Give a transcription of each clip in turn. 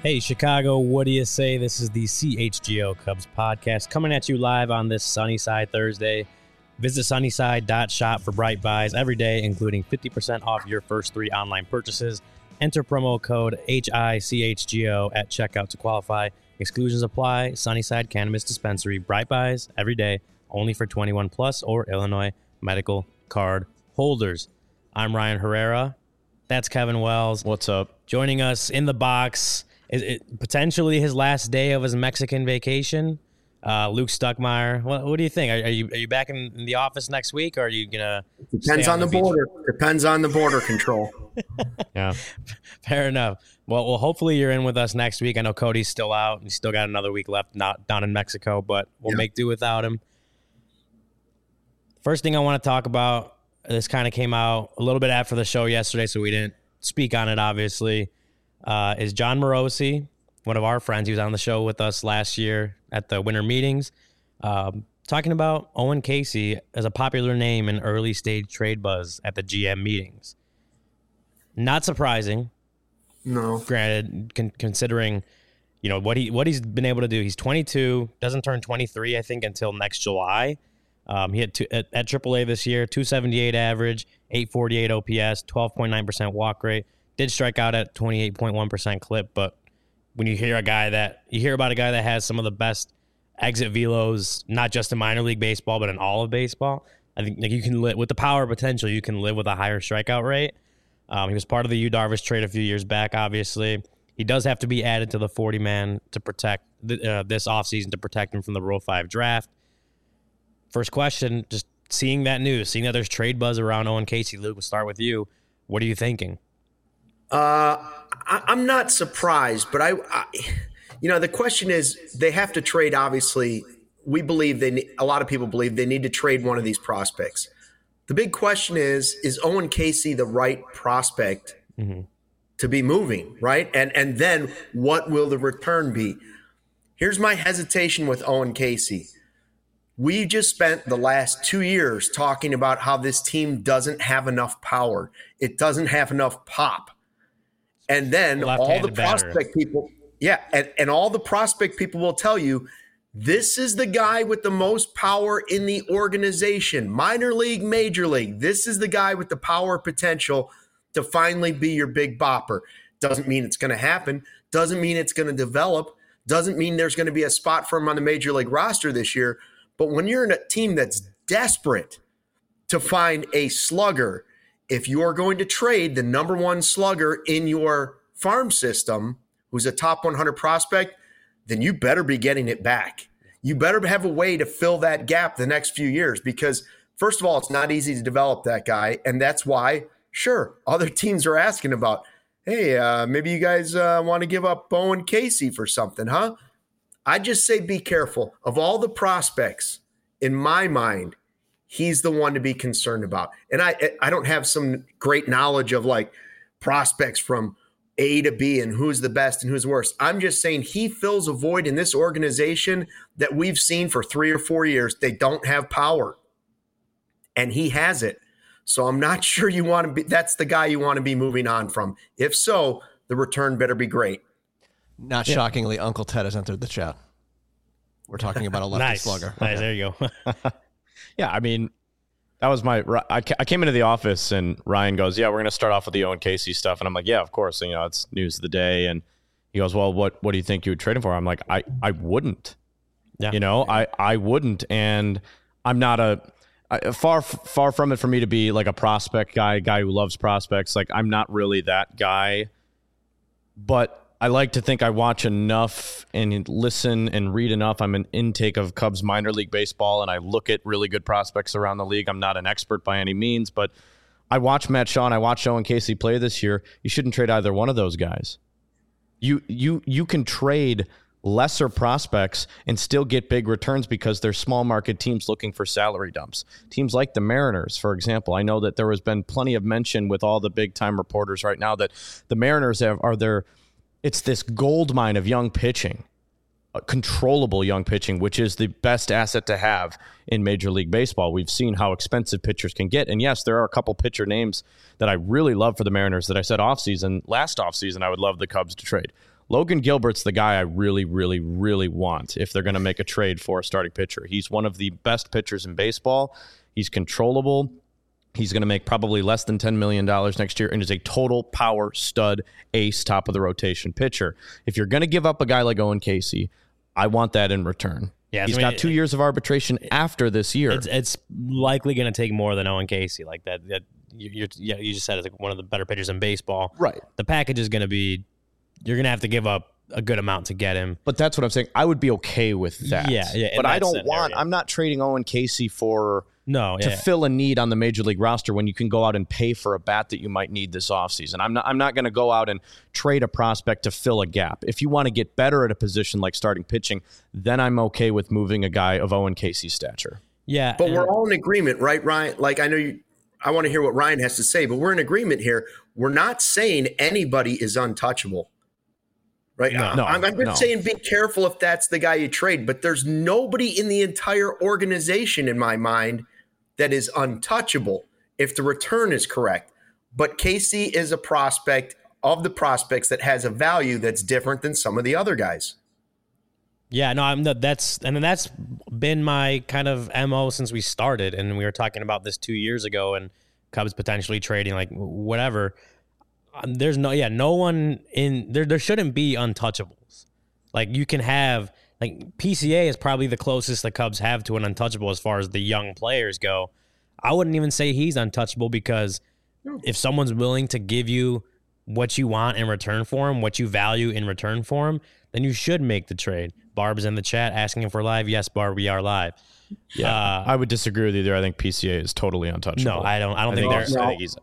Hey, Chicago, what do you say? This is the CHGO Cubs podcast coming at you live on this Sunnyside Thursday. Visit sunnyside.shop for bright buys every day, including 50% off your first 3 online purchases. Enter promo code HICHGO at checkout to qualify. Exclusions apply. Sunnyside Cannabis Dispensary. Bright buys every day, only for 21 plus or Illinois medical card holders. I'm Ryan Herrera. That's Kevin Wells. What's up? Joining us in the box, is it potentially his last day of his Mexican vacation? Luke Stuckmeyer. What do you think? Are you back in the office next week, or are you gonna? Depends on the border. Depends on the border control. Yeah, fair enough. Well, hopefully you're in with us next week. I know Cody's still out. He's still got another week left, not down in Mexico, but we'll make do without him. First thing I want to talk about. This kind of came out a little bit after the show yesterday, so we didn't speak on it, obviously, is John Morosi, one of our friends. He was on the show with us last year at the winter meetings, talking about Owen Casey as a popular name in early stage trade buzz at the GM meetings. Not surprising. No. Granted, considering, you know, what he's been able to do. He's 22, doesn't turn 23, I think, until next July. He had at AAA this year, 278 average, 848 OPS, 12.9% walk rate. Did strike out at 28.1% clip, but when you hear about a guy that has some of the best exit velos, not just in minor league baseball, but in all of baseball, I think you can live with the power potential. You can live with a higher strikeout rate. He was part of the Yu Darvish trade a few years back. Obviously, he does have to be added to the 40-man to protect this offseason to protect him from the Rule 5 draft. First question, just seeing that news, seeing that there's trade buzz around Owen Casey. Luke, we'll start with you. What are you thinking? I'm not surprised, but I the question is they have to trade. Obviously, we believe a lot of people believe they need to trade one of these prospects. The big question is Owen Casey the right prospect to be moving, right? And then what will the return be? Here's my hesitation with Owen Casey. We just spent the last 2 years talking about how this team doesn't have enough power. It doesn't have enough pop. And then all the prospect people, and all the prospect people will tell you, this is the guy with the most power in the organization, minor league, major league. This is the guy with the power potential to finally be your big bopper. Doesn't mean it's going to happen. Doesn't mean it's going to develop. Doesn't mean there's going to be a spot for him on the major league roster this year. But when you're in a team that's desperate to find a slugger, if you are going to trade the number one slugger in your farm system, who's a top 100 prospect, then you better be getting it back. You better have a way to fill that gap the next few years because, first of all, it's not easy to develop that guy. And that's why, sure, other teams are asking about, hey, maybe you guys want to give up Owen Casey for something, huh? I just say be careful. Of all the prospects, in my mind, he's the one to be concerned about. And I don't have some great knowledge of like prospects from A to B and who's the best and who's the worst. I'm just saying he fills a void in this organization that we've seen for 3 or 4 years. They don't have power, and he has it. So I'm not sure you want to be. That's the guy you want to be moving on from. If so, the return better be great. Not shockingly, Uncle Ted has entered the chat. We're talking about a lefty slugger. Nice, there you go. Yeah, I mean, that was I came into the office and Ryan goes, yeah, we're going to start off with the Owen Casey stuff. And I'm like, yeah, of course. And, it's news of the day. And he goes, well, what do you think you would trade him for? I'm like, I wouldn't. Yeah. I wouldn't. And I'm not far from it for me to be like a prospect guy who loves prospects. Like, I'm not really that guy. But I like to think I watch enough and listen and read enough. I'm an intake of Cubs minor league baseball, and I look at really good prospects around the league. I'm not an expert by any means, but I watch Matt Shaw and I watched Owen Casey play this year. You shouldn't trade either one of those guys. You can trade lesser prospects and still get big returns because they're small market teams looking for salary dumps. Teams like the Mariners, for example. I know that there has been plenty of mention with all the big time reporters right now that the Mariners it's this gold mine of young pitching, controllable young pitching, which is the best asset to have in Major League Baseball. We've seen how expensive pitchers can get. And yes, there are a couple pitcher names that I really love for the Mariners that I said last offseason, I would love the Cubs to trade. Logan Gilbert's the guy I really, really, really want if they're going to make a trade for a starting pitcher. He's one of the best pitchers in baseball. He's controllable. He's going to make probably less than $10 million next year and is a total power stud, ace, top of the rotation pitcher. If you're going to give up a guy like Owen Casey, I want that in return. Yeah, he's got 2 years of arbitration after this year. It's likely going to take more than Owen Casey. Like that you just said, it's like one of the better pitchers in baseball. Right. The package is going to be, you're going to have to give up a good amount to get him. But that's what I'm saying. I would be okay with that. Yeah. But I don't I'm not trading Owen Casey to fill a need on the major league roster when you can go out and pay for a bat that you might need this offseason. I'm not going to go out and trade a prospect to fill a gap. If you want to get better at a position like starting pitching, then I'm okay with moving a guy of Owen Casey's stature. Yeah. But we're all in agreement, right, Ryan? Like, I know I want to hear what Ryan has to say, but we're in agreement here. We're not saying anybody is untouchable. Right. I'm just saying be careful if that's the guy you trade, but there's nobody in the entire organization in my mind that is untouchable if the return is correct. But Casey is a prospect of the prospects that has a value that's different than some of the other guys. Yeah, no, that's been my kind of MO since we started, and we were talking about this 2 years ago, and Cubs potentially trading like whatever. There's no one in there. There shouldn't be untouchables. Like you can have like PCA is probably the closest the Cubs have to an untouchable as far as the young players go. I wouldn't even say he's untouchable because if someone's willing to give you what you want in return for him, what you value in return for him, then you should make the trade. Barb's in the chat asking if we're live. Yes, Barb, we are live. Yeah, I would disagree with you there. I think PCA is totally untouchable. No, I don't think there's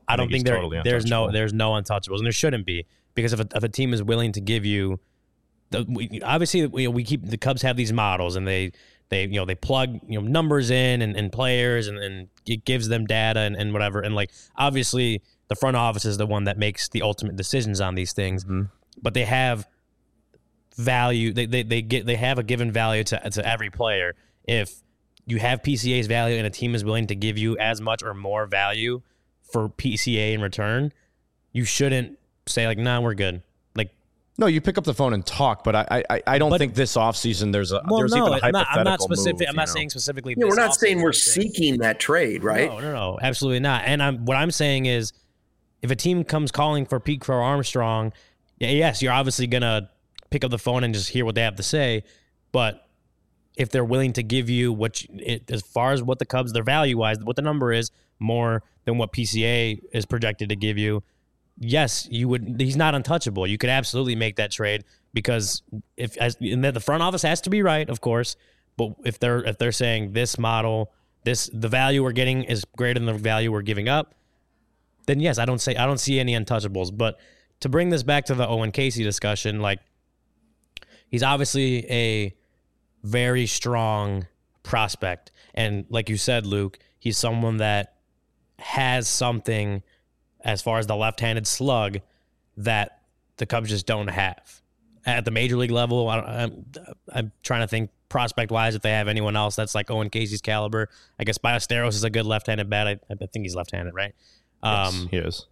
no untouchables, and there shouldn't be, because if a team is willing to give you, obviously we keep the Cubs have these models, and they plug numbers in and players, and it gives them data and whatever, and like obviously the front office is the one that makes the ultimate decisions on these things, but they have value. They have a given value to every player. If you have PCA's value and a team is willing to give you as much or more value for PCA in return, you shouldn't say like, nah, we're good. Like, no, you pick up the phone and talk, but I don't think this offseason there's even a hypothetical I'm not specific. move, I'm not saying specifically. We're not saying we're seeking that trade, right? No, absolutely not. And what I'm saying is, if a team comes calling for Pete Crow Armstrong, yes, you're obviously gonna pick up the phone and just hear what they have to say, but if they're willing to give you as far as what the Cubs, their value-wise, what the number is, more than what PCA is projected to give you, yes, you would. He's not untouchable. You could absolutely make that trade because the front office has to be right, of course. But if they're saying this model, the value we're getting is greater than the value we're giving up, then yes, I don't see any untouchables. But to bring this back to the Owen Casey discussion, like he's obviously a very strong prospect. And like you said, Luke, he's someone that has something as far as the left-handed slug that the Cubs just don't have. At the major league level, I'm trying to think prospect-wise if they have anyone else that's like Owen Casey's caliber. I guess Ballesteros is a good left-handed bat. I think he's left-handed, right? Yes, he is.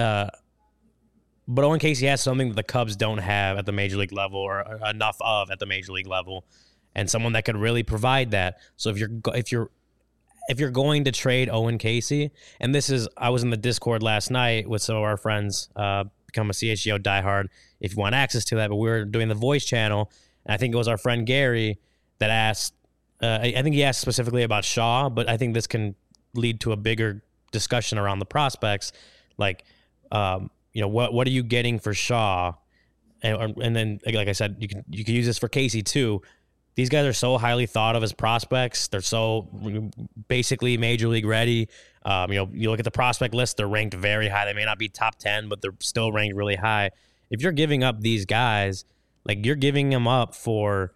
But Owen Casey has something that the Cubs don't have at the major league level, or enough of at the major league level, and someone that could really provide that. So if you're going to trade Owen Casey, and I was in the Discord last night with some of our friends, become a CHGO diehard if you want access to that, but we were doing the voice channel, and I think it was our friend Gary that asked, I think he asked specifically about Shaw, but I think this can lead to a bigger discussion around the prospects. Like, what are you getting for Shaw? And then, like I said, you can use this for Casey too. These guys are so highly thought of as prospects. They're so basically major league ready. You look at the prospect list, they're ranked very high. They may not be top 10, but they're still ranked really high. If you're giving up these guys, like you're giving them up for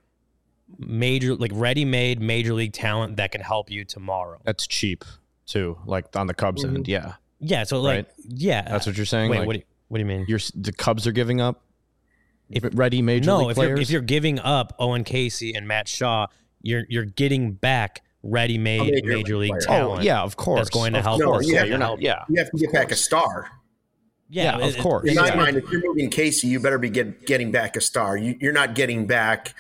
ready-made major league talent that can help you tomorrow. That's cheap too, like on the Cubs end. Yeah. Yeah. So that's what you're saying. Wait, like, what do you mean? The Cubs are giving up ready major league players? If you're giving up Owen Casey and Matt Shaw, you're getting back ready-made major league talent. Oh, yeah, of course. That's going to help. You have to get back a star. Yeah, of course. In my mind, if you're moving Casey, you better be getting back a star. You're not getting back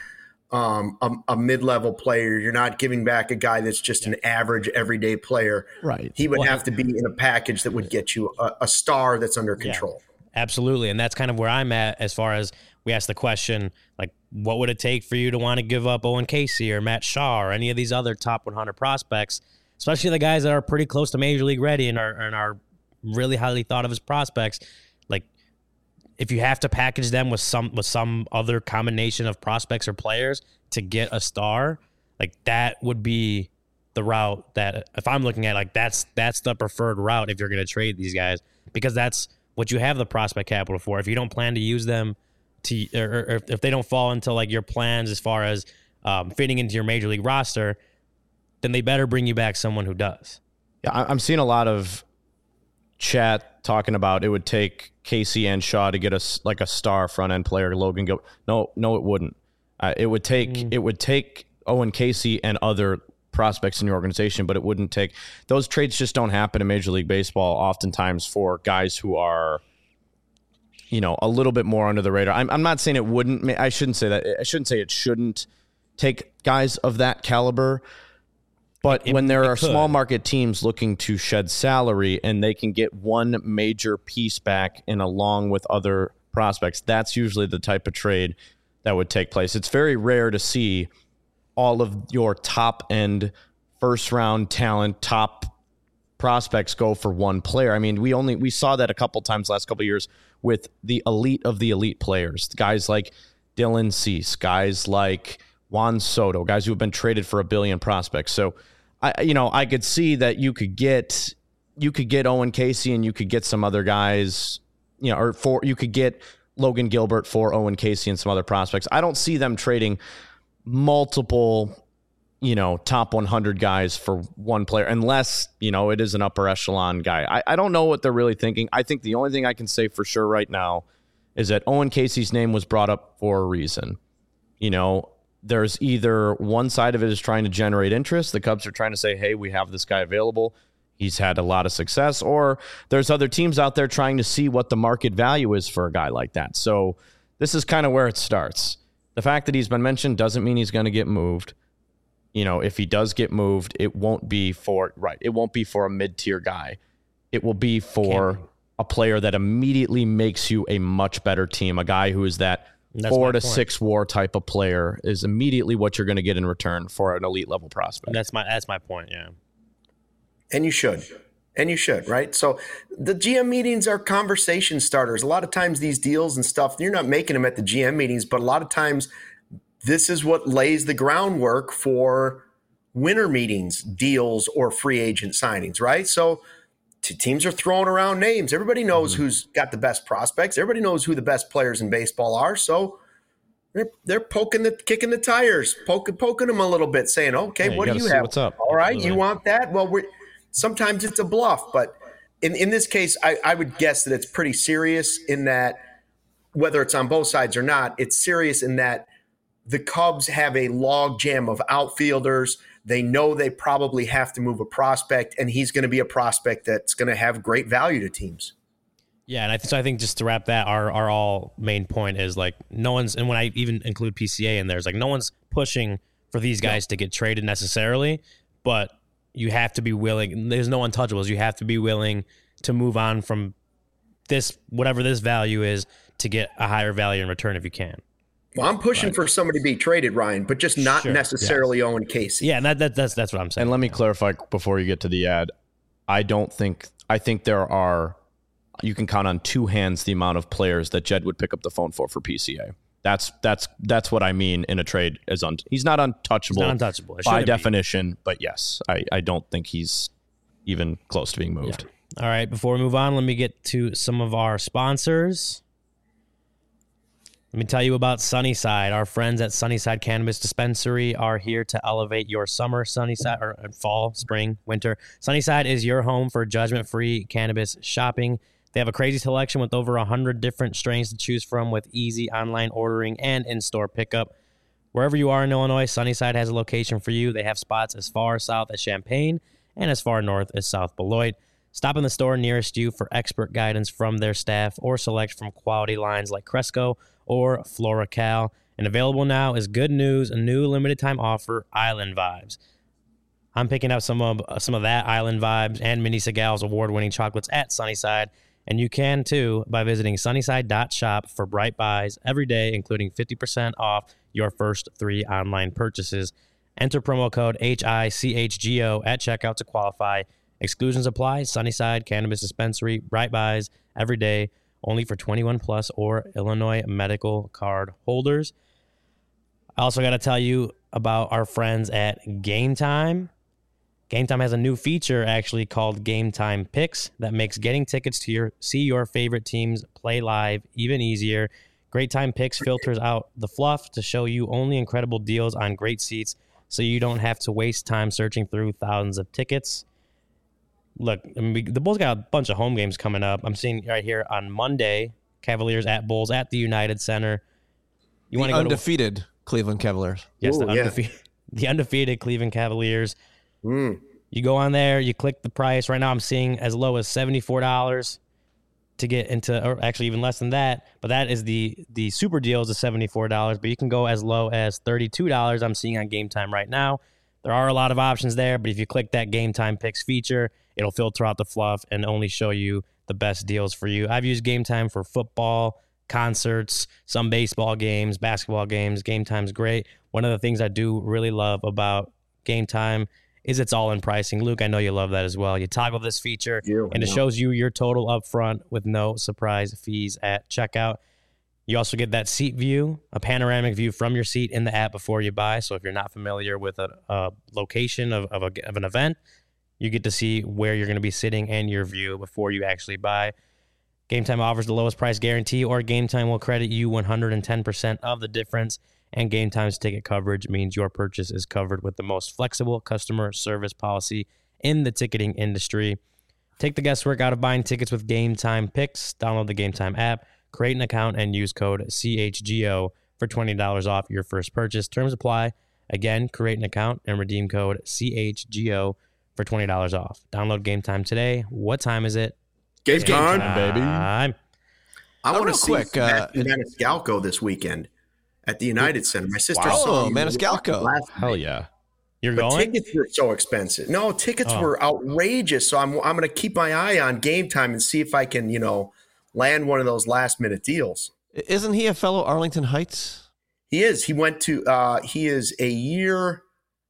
a mid-level player. You're not giving back a guy that's just an average everyday player. Right. He would have to be in a package that would get you a star that's under control. Absolutely. And that's kind of where I'm at as far as we asked the question, like, what would it take for you to want to give up Owen Casey or Matt Shaw or any of these other top 100 prospects, especially the guys that are pretty close to Major League ready and are really highly thought of as prospects? Like, if you have to package them with some other combination of prospects or players to get a star, like, that would be the route that, if I'm looking at, like, that's the preferred route if you're going to trade these guys, because that's what you have the prospect capital for. If you don't plan to use them or if they don't fall into like your plans as far as fitting into your Major League roster, then they better bring you back someone who does. Yeah, I'm seeing a lot of chat talking about it would take Casey and Shaw to get us like a star front end player, Logan Gilbert. No, it wouldn't. It would take Owen Casey and other prospects in your organization, but it wouldn't take. Those trades just don't happen in Major League Baseball oftentimes for guys who are, a little bit more under the radar. I'm not saying it wouldn't. I shouldn't say that. I shouldn't say it shouldn't take guys of that caliber. But when there are small market teams looking to shed salary and they can get one major piece back and along with other prospects, that's usually the type of trade that would take place. It's very rare to see all of your top end first round talent, top prospects go for one player. I mean, we saw that a couple times last couple of years with the elite of the elite players, guys like Dylan Cease, guys like Juan Soto, guys who have been traded for $1 billion prospects. So I could see that you could get Owen Casey and you could get some other guys, you could get Logan Gilbert for Owen Casey and some other prospects. I don't see them trading multiple, top 100 guys for one player, unless, it is an upper echelon guy. I don't know what they're really thinking. I think the only thing I can say for sure right now is that Owen Casey's name was brought up for a reason. There's either one side of it is trying to generate interest. The Cubs are trying to say, hey, we have this guy available. He's had a lot of success. Or there's other teams out there trying to see what the market value is for a guy like that. So this is kind of where it starts. The fact that he's been mentioned doesn't mean he's going to get moved. If he does get moved, it won't be for a mid-tier guy. It will be for a player that immediately makes you a much better team. A guy who is that 4 to 6 WAR type of player is immediately what you're going to get in return for an elite level prospect. That's my point. Yeah. And you should, right? So the GM meetings are conversation starters. A lot of times these deals and stuff, you're not making them at the GM meetings, but a lot of times this is what lays the groundwork for winter meetings, deals, or free agent signings, right? So teams are throwing around names. Everybody knows who's got the best prospects. Everybody knows who the best players in baseball are. So they're kicking the tires, poking them a little bit, saying, okay, what do you have? What's up? All right, you want that? Well, sometimes it's a bluff, but in this case, I would guess that it's pretty serious in that, whether it's on both sides or not, it's serious in that the Cubs have a log jam of outfielders. They know they probably have to move a prospect, and he's going to be a prospect that's going to have great value to teams. Yeah, and I think just to wrap that, our all main point is like no one's, and when I even include PCA in there, it's like no one's pushing for these guys to get traded necessarily, but you have to be willing. There's no untouchables. You have to be willing to move on from this, whatever this value is, to get a higher value in return if you can. Well, I'm pushing for somebody to be traded, Ryan, but just not necessarily Owen Casey. Yeah, that's what I'm saying. And let me clarify before you get to the ad. I think there are, you can count on two hands the amount of players that Jed would pick up the phone for PCA. That's what I mean in a trade. He's not untouchable. He's not untouchable by definition, but yes, I don't think he's even close to being moved. Yeah. All right, before we move on, let me get to some of our sponsors. Let me tell you about Sunnyside. Our friends at Sunnyside Cannabis Dispensary are here to elevate your summer, Sunnyside, or fall, spring, winter. Sunnyside is your home for judgment-free cannabis shopping. They have a crazy selection with over 100 different strains to choose from with easy online ordering and in-store pickup. Wherever you are in Illinois, Sunnyside has a location for you. They have spots as far south as Champaign and as far north as South Beloit. Stop in the store nearest you for expert guidance from their staff or select from quality lines like Cresco or FloraCal. And available now is good news, a new limited time offer, Island Vibes. I'm picking up some of that Island Vibes and Mini Segal's award-winning chocolates at Sunnyside. And you can too by visiting sunnyside.shop for bright buys every day, including 50% off your first 3 online purchases. Enter promo code HICHGO at checkout to qualify. Exclusions apply. Sunnyside Cannabis Dispensary, bright buys every day, only for 21 plus or Illinois medical card holders. I also got to tell you about our friends at Game Time. Game Time has a new feature actually called Game Time Picks that makes getting tickets to see your favorite teams play live even easier. Great Time Picks filters out the fluff to show you only incredible deals on great seats so you don't have to waste time searching through thousands of tickets. Look, the Bulls got a bunch of home games coming up. I'm seeing right here on Monday, Cavaliers at Bulls at the United Center. You want to go undefeated Cleveland Cavaliers. Yes, the undefeated Cleveland Cavaliers. You go on there, you click the price. Right now I'm seeing as low as $74 to get into, or actually even less than that. But that is the super deal is $74. But you can go as low as $32 I'm seeing on Game Time right now. There are a lot of options there, but if you click that Game Time Picks feature, it'll filter out the fluff and only show you the best deals for you. I've used Game Time for football, concerts, some baseball games, basketball games. Game Time's great. One of the things I do really love about Game Time is it's all in pricing. Luke, I know you love that as well. You toggle this feature, and it shows you your total up front with no surprise fees at checkout. You also get that seat view, a panoramic view from your seat in the app before you buy. So if you're not familiar with a location of an event, you get to see where you're going to be sitting and your view before you actually buy. Game Time offers the lowest price guarantee, or Game Time will credit you 110% of the difference. And Game Time's ticket coverage means your purchase is covered with the most flexible customer service policy in the ticketing industry. Take the guesswork out of buying tickets with Game Time Picks. Download the Game Time app, create an account, and use code CHGO for $20 off your first purchase. Terms apply. Again, create an account and redeem code CHGO for $20 off. Download Game Time today. What time is it? Game time, baby. I want to see Maniscalco this weekend at the United Center. My sister saw Maniscalco. Hell yeah. You're but going? Tickets were so expensive. No, tickets were outrageous. So I'm going to keep my eye on Game Time and see if I can, land one of those last minute deals. Isn't he a fellow Arlington Heights? He is. He went to he is a year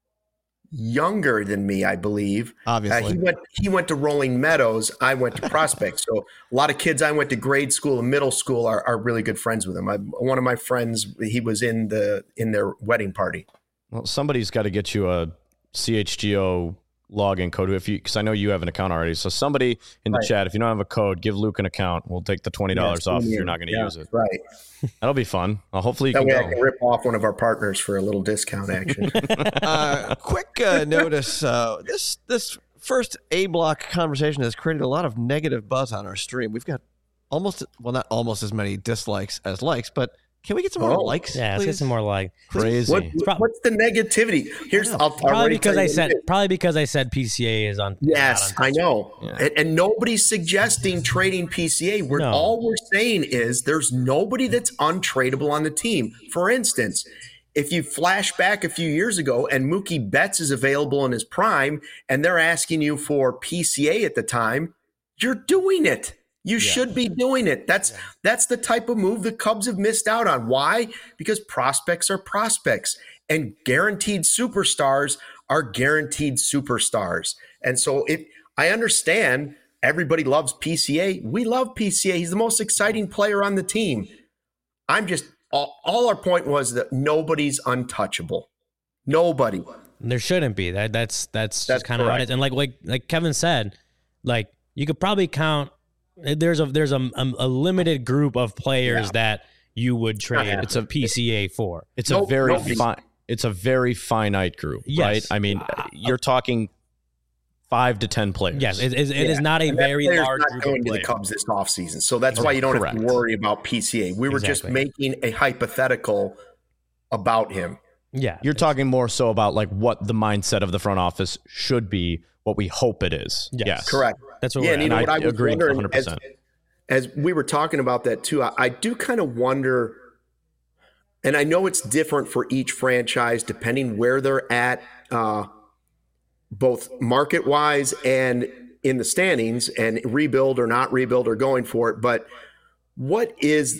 younger than me, I believe. Obviously. He went to Rolling Meadows. I went to Prospect. So a lot of kids I went to grade school and middle school are really good friends with him. One of my friends, he was in their wedding party. Well, somebody's got to get you a CHGO login code because I know you have an account already. So somebody in the chat, if you don't have a code, give Luke an account. We'll take the $20 off if you're not going to use it. Right. That'll be fun. Hopefully you that can way go. I can rip off one of our partners for a little discount action. Quick notice. This first A-block conversation has created a lot of negative buzz on our stream. We've got not almost as many dislikes as likes, but can we get some more likes? Yeah, let's get some more likes. Crazy. What's the negativity? Probably because I said PCA is on. Yes, I know. Yeah. And nobody's suggesting trading PCA. All we're saying is there's nobody that's untradeable on the team. For instance, if you flash back a few years ago and Mookie Betts is available in his prime and they're asking you for PCA at the time, you're doing it. You should be doing it. That's the type of move the Cubs have missed out on. Why? Because prospects are prospects and guaranteed superstars are guaranteed superstars. And so I understand everybody loves PCA. We love PCA. He's the most exciting player on the team. All our point was that nobody's untouchable. Nobody. There shouldn't be. That's just kind of what it is. And like Kevin said, you could probably count. There's a limited group of players that you would trade. It's a PCA for. It's a very finite group, right? I mean, you're talking 5 to 10 players. Yes, it is not a very large group going of to players. the Cubs this offseason. So that's why you don't have to worry about PCA. We were just making a hypothetical about him. Yeah, you're talking more so about what the mindset of the front office should be, what we hope it is. Yes. Correct. That's what yeah, we're and at. you know And what I I was agree wondering 100%. as we were talking about that too, I do kind of wonder, and I know it's different for each franchise depending where they're at, both market wise and in the standings, and rebuild or not rebuild or going for it. But where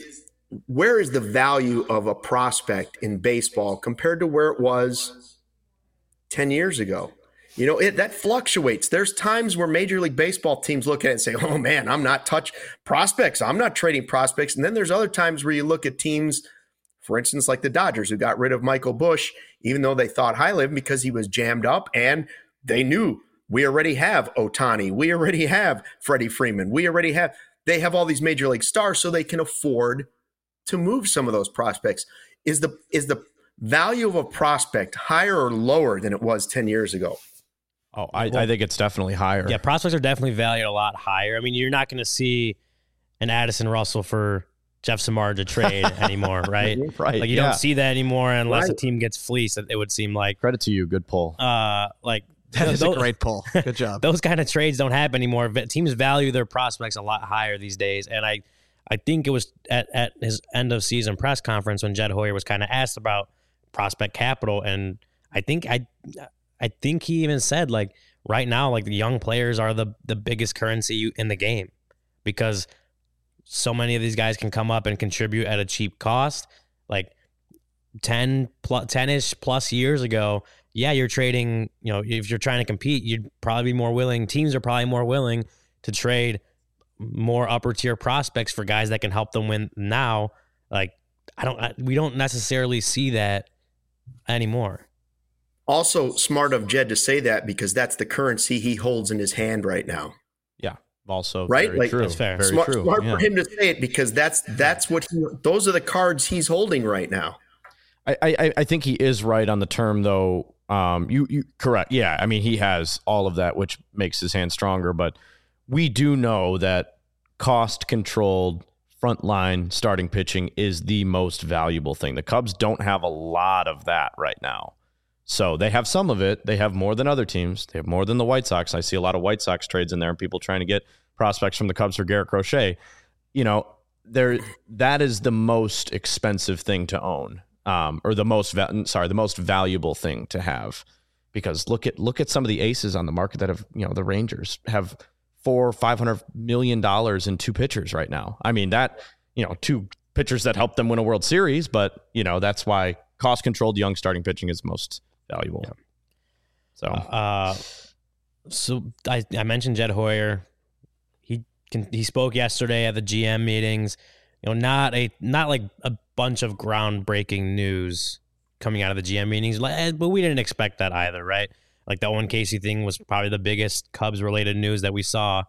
is the value of a prospect in baseball compared to where it was 10 years ago? You know, that fluctuates. There's times where Major League Baseball teams look at it and say, oh man, I'm not touch prospects. I'm not trading prospects. And then there's other times where you look at teams, for instance, like the Dodgers, who got rid of Michael Busch, even though they thought highly of him because he was jammed up, and they knew we already have Ohtani. We already have Freddie Freeman. They have all these Major League stars, so they can afford to move some of those prospects. Is the value of a prospect higher or lower than it was 10 years ago? Oh, I think it's definitely higher. Yeah, prospects are definitely valued a lot higher. I mean, you're not going to see an Addison Russell for Jeff Samardzija trade anymore, right? Right. Like you don't see that anymore unless a Right. team gets fleeced. It would seem like. Credit to you. Good pull. Like That is a those- great pull. Good job. Those kind of trades don't happen anymore. Teams value their prospects a lot higher these days, and I think it was at his end of season press conference when Jed Hoyer was kind of asked about prospect capital, and I think he even said, like, right now, like, the young players are the biggest currency in the game because so many of these guys can come up and contribute at a cheap cost. Like 10-ish plus years ago, yeah, you're trading, you know, if you're trying to compete, you'd probably be more willing. Teams are probably more willing to trade more upper tier prospects for guys that can help them win now. Like, we don't necessarily see that anymore. Also, smart of Jed to say that because that's the currency he holds in his hand right now. Yeah. Also, Right? very Like, true. that's fair. Very Smart true. for Yeah. him to say it because that's what those are the cards he's holding right now. I think he is right on the term, though. You correct. Yeah. I mean, he has all of that, which makes his hand stronger. But we do know that cost-controlled frontline starting pitching is the most valuable thing. The Cubs don't have a lot of that right now. So they have some of it. They have more than other teams. They have more than the White Sox. I see a lot of White Sox trades in there and people trying to get prospects from the Cubs for Garrett Crochet. You know, that is the most expensive thing to own. Or the most valuable thing to have, because look at some of the aces on the market that have, you know, the Rangers have $400-500 million in two pitchers right now. I mean, that, you know, two pitchers that helped them win a World Series, but you know, that's why cost controlled young starting pitching is most valuable. Yeah. So I mentioned Jed Hoyer. He spoke yesterday at the GM meetings. You know, not like a bunch of groundbreaking news coming out of the GM meetings, but we didn't expect that either, right? Like the Owen Casey thing was probably the biggest Cubs related news that we saw.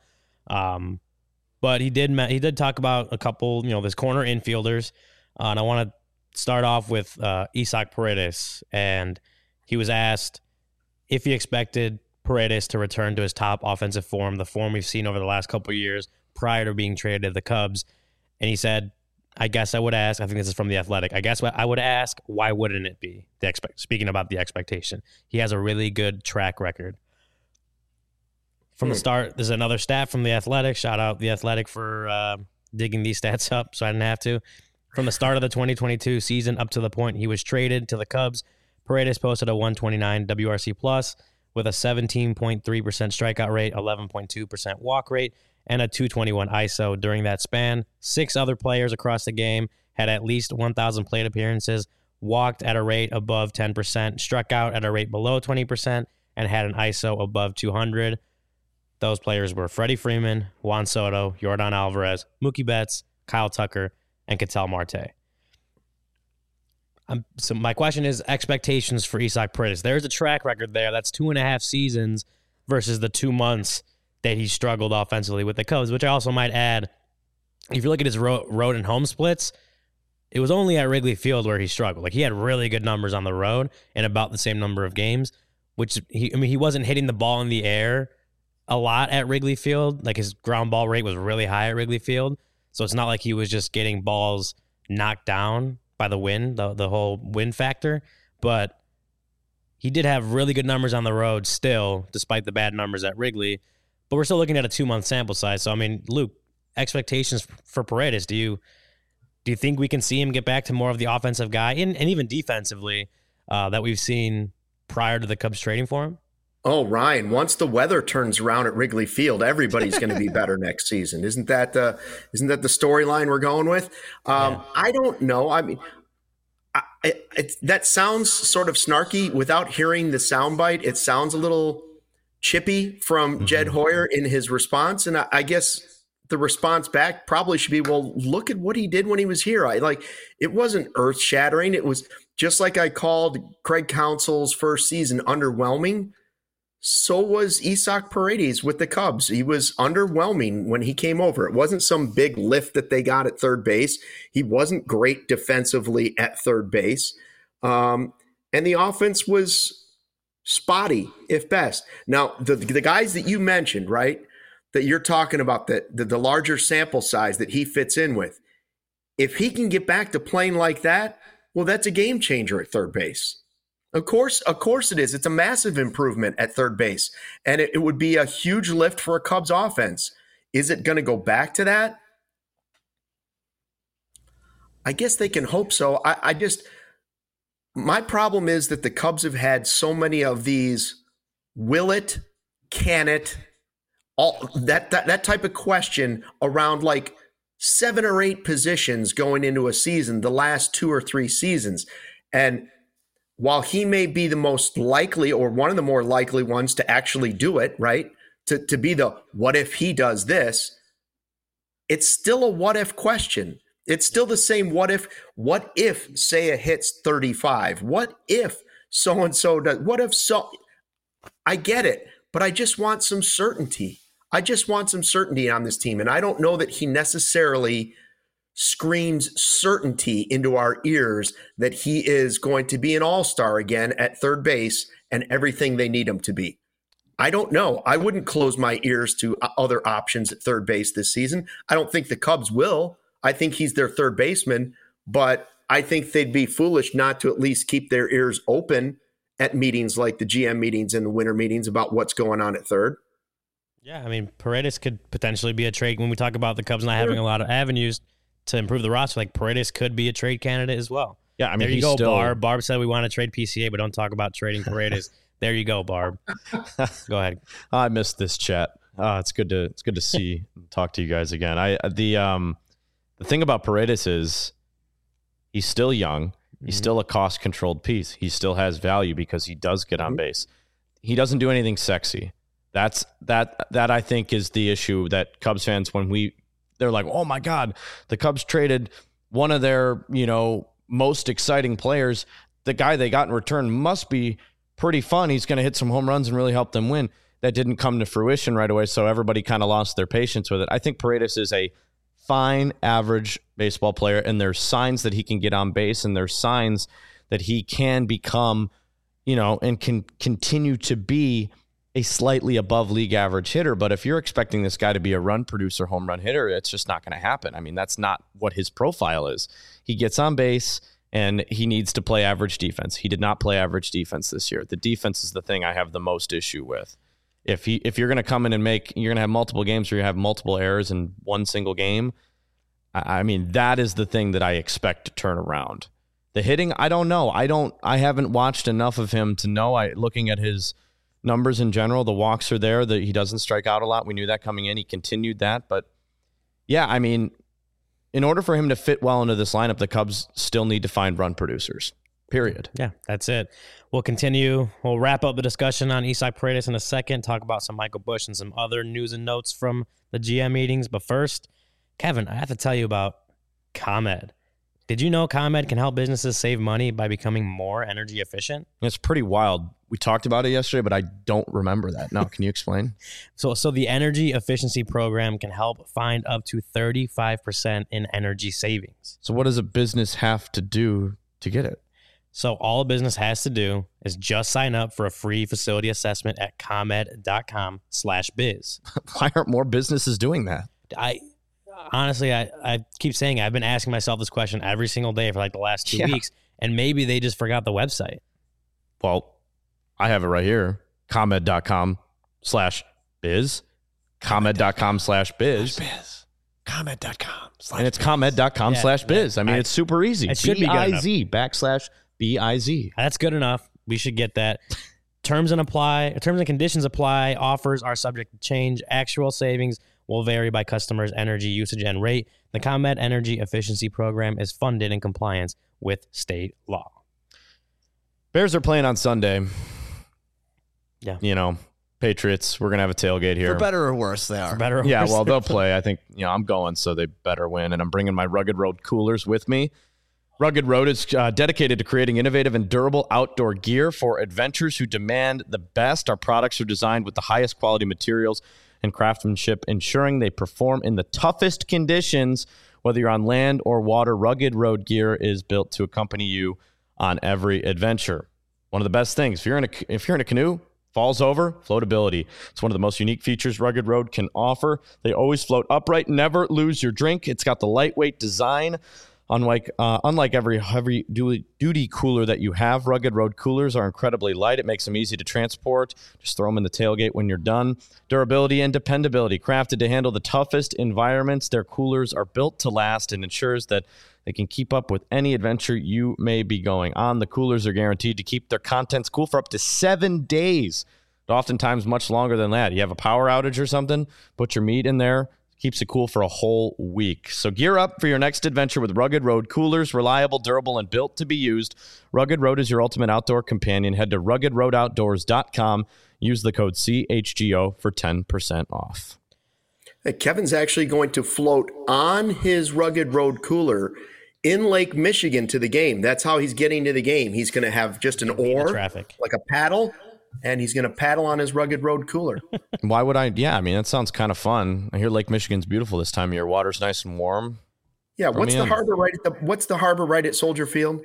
But he did talk about a couple, you know, this corner infielders, and I want to start off with Isaac Paredes, and he was asked if he expected Paredes to return to his top offensive form, the form we've seen over the last couple of years prior to being traded to the Cubs. And he said, I guess I would ask, I think this is from The Athletic, I guess I would ask, why wouldn't it be? Speaking about the expectation. He has a really good track record. From the start, there's another stat from The Athletic. Shout out The Athletic for digging these stats up so I didn't have to. From the start of the 2022 season up to the point he was traded to the Cubs, Paredes posted a 129 WRC plus with a 17.3% strikeout rate, 11.2% walk rate, and a 221 ISO during that span. 6 other players across the game had at least 1,000 plate appearances, walked at a rate above 10%, struck out at a rate below 20%, and had an ISO above 200. Those players were Freddie Freeman, Juan Soto, Yordan Alvarez, Mookie Betts, Kyle Tucker, and Ketel Marte. So my question is expectations for Isaac Paredes. There's a track record there. That's 2.5 seasons versus the 2 months that he struggled offensively with the Cubs, which I also might add, if you look at his road and home splits, it was only at Wrigley Field where he struggled. Like, he had really good numbers on the road in about the same number of games, which he wasn't hitting the ball in the air a lot at Wrigley Field. Like, his ground ball rate was really high at Wrigley Field. So it's not like he was just getting balls knocked down by the wind, the whole wind factor. But he did have really good numbers on the road still, despite the bad numbers at Wrigley. but we're still looking at a 2-month sample size. So, I mean, Luke, expectations for Paredes, do you think we can see him get back to more of the offensive guy and even defensively that we've seen prior to the Cubs trading for him? Oh, Ryan, once the weather turns around at Wrigley Field, everybody's going to be better next season. Isn't that the storyline we're going with? I don't know. I mean, that sounds sort of snarky. Without hearing the soundbite, it sounds a little chippy from Jed Hoyer in his response. And I guess the response back probably should be, well, look at what he did when he was here. It wasn't earth shattering. It was just like I called Craig Counsell's first season underwhelming. So was Isaac Paredes with the Cubs. He was underwhelming when he came over. It wasn't some big lift that they got at third base. He wasn't great defensively at third base. And the offense was spotty, if best. Now, the guys that you mentioned, right, that you're talking about, the larger sample size that he fits in with, if he can get back to playing like that, well, that's a game changer at third base. Of course it is. It's a massive improvement at third base, and it would be a huge lift for a Cubs offense. Is it going to go back to that? I guess they can hope so. My problem is that the Cubs have had so many of these will it, can it, all that type of question around like 7 or 8 positions going into a season, the last 2 or 3 seasons. And while he may be the most likely or one of the more likely ones to actually do it, right, to be the what if he does this, it's still a what if question. It's still the same what if Seiya hits 35? What if so-and-so does? What if so? I get it, but I just want some certainty. I just want some certainty on this team, and I don't know that he necessarily screams certainty into our ears that he is going to be an all-star again at third base and everything they need him to be. I don't know. I wouldn't close my ears to other options at third base this season. I don't think the Cubs will. I think he's their third baseman, but I think they'd be foolish not to at least keep their ears open at meetings like the GM meetings and the winter meetings about what's going on at third. Yeah, I mean, Paredes could potentially be a trade. When we talk about the Cubs not having a lot of avenues to improve the roster, like Paredes could be a trade candidate as well. Yeah, I mean, there you go, Barb. Barb said we want to trade PCA, but don't talk about trading Paredes. There you go, Barb. Go ahead. I missed this chat. It's good to see and talk to you guys again. The thing about Paredes is he's still young. He's still a cost-controlled piece. He still has value because he does get on base. He doesn't do anything sexy. That I think is the issue that Cubs fans, they're like, oh my God, the Cubs traded one of their, most exciting players. The guy they got in return must be pretty fun. He's going to hit some home runs and really help them win. That didn't come to fruition right away, so everybody kind of lost their patience with it. I think Paredes is a fine, average baseball player, and there's signs that he can get on base, and there's signs that he can become, and can continue to be a slightly above league average hitter. But if you're expecting this guy to be a run producer, home run hitter, it's just not going to happen. I mean, that's not what his profile is. He gets on base and he needs to play average defense. He did not play average defense this year. The defense is the thing I have the most issue with. If you're going to come in and you're going to have multiple games where you have multiple errors in one single game, I mean, that is the thing that I expect to turn around. The hitting, I don't know. I haven't watched enough of him to know. Looking at his numbers in general, the walks are there, that he doesn't strike out a lot. We knew that coming in. He continued that. But yeah, I mean, in order for him to fit well into this lineup, the Cubs still need to find run producers, period. Yeah, that's it. We'll continue. We'll wrap up the discussion on Isaac Paredes in a second, talk about some Michael Busch and some other news and notes from the GM meetings. But first, Kevin, I have to tell you about ComEd. Did you know ComEd can help businesses save money by becoming more energy efficient? It's pretty wild. We talked about it yesterday, but I don't remember that. No, can you explain? So the energy efficiency program can help find up to 35% in energy savings. So what does a business have to do to get it? So all a business has to do is just sign up for a free facility assessment at comed.com/biz. Why aren't more businesses doing that? Honestly, I keep saying I've been asking myself this question every single day for like the last 2 weeks, and maybe they just forgot the website. Well, I have it right here, comed.com/biz. ComEd.com/biz. ComEd.com. And it's ComEd.com/biz. I mean, it's super easy. It should be good enough. BIZ. That's good enough. We should get that. Terms and conditions apply. Offers are subject to change. Actual savings will vary by customer's energy usage and rate. The ComEd Energy Efficiency Program is funded in compliance with state law. Bears are playing on Sunday. Yeah. You know, Patriots, we're going to have a tailgate here. For better or worse, they are. For better or Yeah, worse. well, they'll play. I think, I'm going, so they better win. And I'm bringing my Rugged Road coolers with me. Rugged Road is dedicated to creating innovative and durable outdoor gear for adventurers who demand the best. Our products are designed with the highest quality materials and craftsmanship, ensuring they perform in the toughest conditions. Whether you're on land or water, Rugged Road gear is built to accompany you on every adventure. One of the best things, if you're in a canoe, falls over, floatability. It's one of the most unique features Rugged Road can offer. They always float upright, never lose your drink. It's got the lightweight design. Unlike every heavy-duty cooler that you have, Rugged Road coolers are incredibly light. It makes them easy to transport. Just throw them in the tailgate when you're done. Durability and dependability. Crafted to handle the toughest environments, their coolers are built to last and ensures that they can keep up with any adventure you may be going on. The coolers are guaranteed to keep their contents cool for up to 7 days. Oftentimes much longer than that. You have a power outage or something, put your meat in there. Keeps it cool for a whole week. So gear up for your next adventure with Rugged Road coolers, reliable, durable, and built to be used. Rugged Road is your ultimate outdoor companion. Head to ruggedroadoutdoors.com. Use the code CHGO for 10% off. Hey, Kevin's actually going to float on his Rugged Road cooler in Lake Michigan to the game. That's how he's getting to the game. He's going to have just an oar, like a paddle, and he's going to paddle on his Rugged Road cooler. Why would I? Yeah, I mean, that sounds kind of fun. I hear Lake Michigan's beautiful this time of year. Water's nice and warm. Yeah, what's the harbor right at Soldier Field?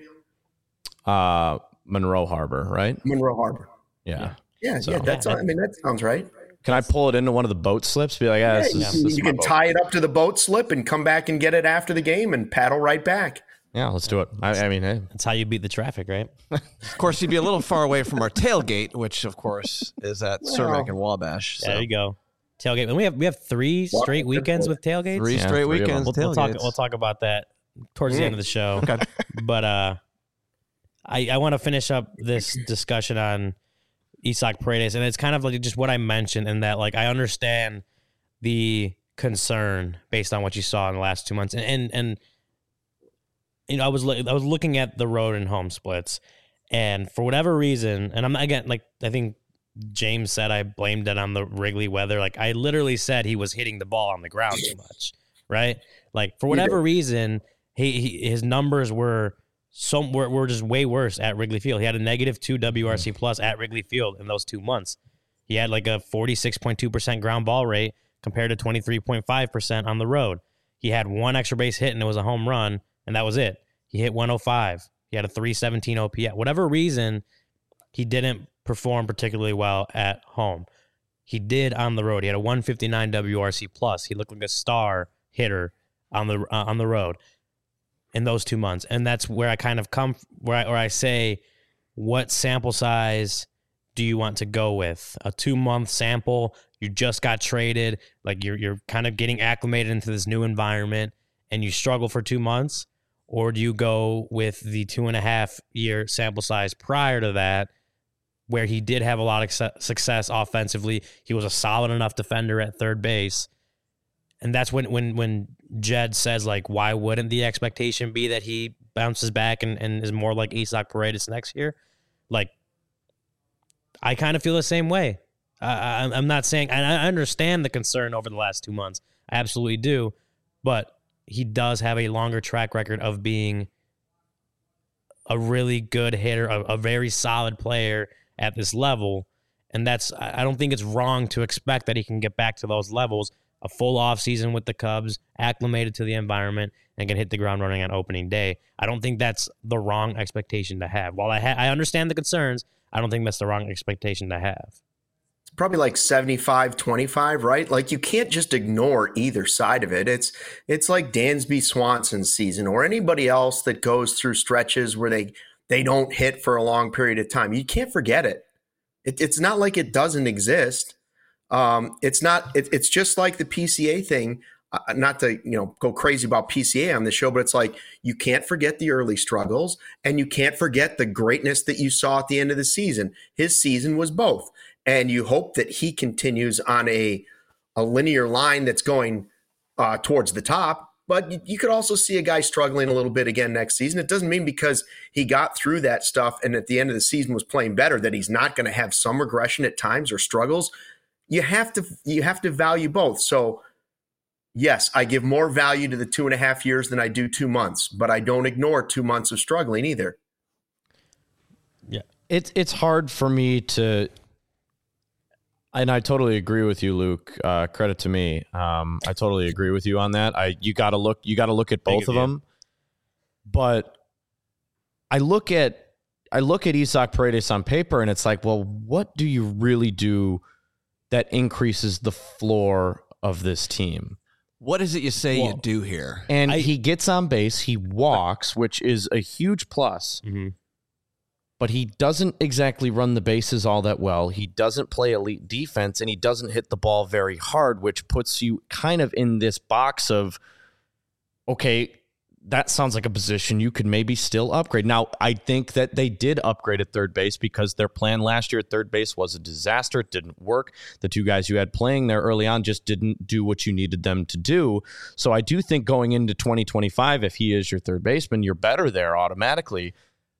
Monroe Harbor, right? Monroe Harbor. Yeah. That sounds right. Can I pull it into one of the boat slips? Be like, you can tie it up to the boat slip and come back and get it after the game and paddle right back. Yeah, let's do it. I mean, hey. That's how you beat the traffic, right? Of course, you'd be a little far away from our tailgate, which, of course, is at Cermak and Wabash. So. There you go. Tailgate. And we have 3 straight weekends with tailgates. 3 straight weekends. We'll talk about that towards the end of the show. Okay. But I want to finish up this discussion on Isaac Paredes, and it's kind of like just what I mentioned, in that like I understand the concern based on what you saw in the last 2 months, and you know, I was looking at the road and home splits, and for whatever reason, and I'm again, like I think James said, I blamed it on the Wrigley weather. Like I literally said he was hitting the ball on the ground too much, right? Like for whatever reason, his numbers were just way worse at Wrigley Field. He had a -2 WRC plus at Wrigley Field in those 2 months. He had like a 46.2% ground ball rate compared to 23.5% on the road. He had 1 extra base hit and it was a home run, and that was it. He hit 105. He had a 317 OPS. Whatever reason, he didn't perform particularly well at home. He did on the road. He had a 159 WRC plus. He looked like a star hitter on the road in those 2 months. And that's where I kind of come where I say, what sample size do you want to go with? A 2-month sample, you just got traded, like you're kind of getting acclimated into this new environment and you struggle for 2 months? Or do you go with the 2.5-year sample size prior to that, where he did have a lot of success offensively? He was a solid enough defender at third base. And that's when Jed says, like, why wouldn't the expectation be that he bounces back and is more like Isaac Paredes next year? Like, I kind of feel the same way. I'm not saying, and I understand the concern over the last 2 months. I absolutely do. But he does have a longer track record of being a really good hitter, a very solid player at this level. And I don't think it's wrong to expect that he can get back to those levels. A full offseason with the Cubs, acclimated to the environment, and can hit the ground running on opening day. I don't think that's the wrong expectation to have. While I understand the concerns, I don't think that's the wrong expectation to have. It's probably like 75-25, right? Like you can't just ignore either side of it. It's like Dansby Swanson's season or anybody else that goes through stretches where they don't hit for a long period of time. You can't forget it. It's not like it doesn't exist. It's not. It's just like the PCA thing. Not to go crazy about PCA on the show, but it's like you can't forget the early struggles, and you can't forget the greatness that you saw at the end of the season. His season was both, and you hope that he continues on a linear line that's going towards the top. But you could also see a guy struggling a little bit again next season. It doesn't mean because he got through that stuff and at the end of the season was playing better that he's not going to have some regression at times or struggles. You have to value both. So yes, I give more value to the 2.5 years than I do 2 months, but I don't ignore 2 months of struggling either. Yeah, it's hard for me to, and I totally agree with you, Luke. Credit to me. I totally agree with you on that. You got to look at both of them. But I look at Isaac Paredes on paper, and it's like, well, what do you really do that increases the floor of this team? What is it you say you do here? And he gets on base, he walks, which is a huge plus. Mm-hmm. But he doesn't exactly run the bases all that well. He doesn't play elite defense, and he doesn't hit the ball very hard, which puts you kind of in this box of, okay, that sounds like a position you could maybe still upgrade. Now, I think that they did upgrade at third base because their plan last year at third base was a disaster. It didn't work. The two guys you had playing there early on just didn't do what you needed them to do. So I do think going into 2025, if he is your third baseman, you're better there automatically.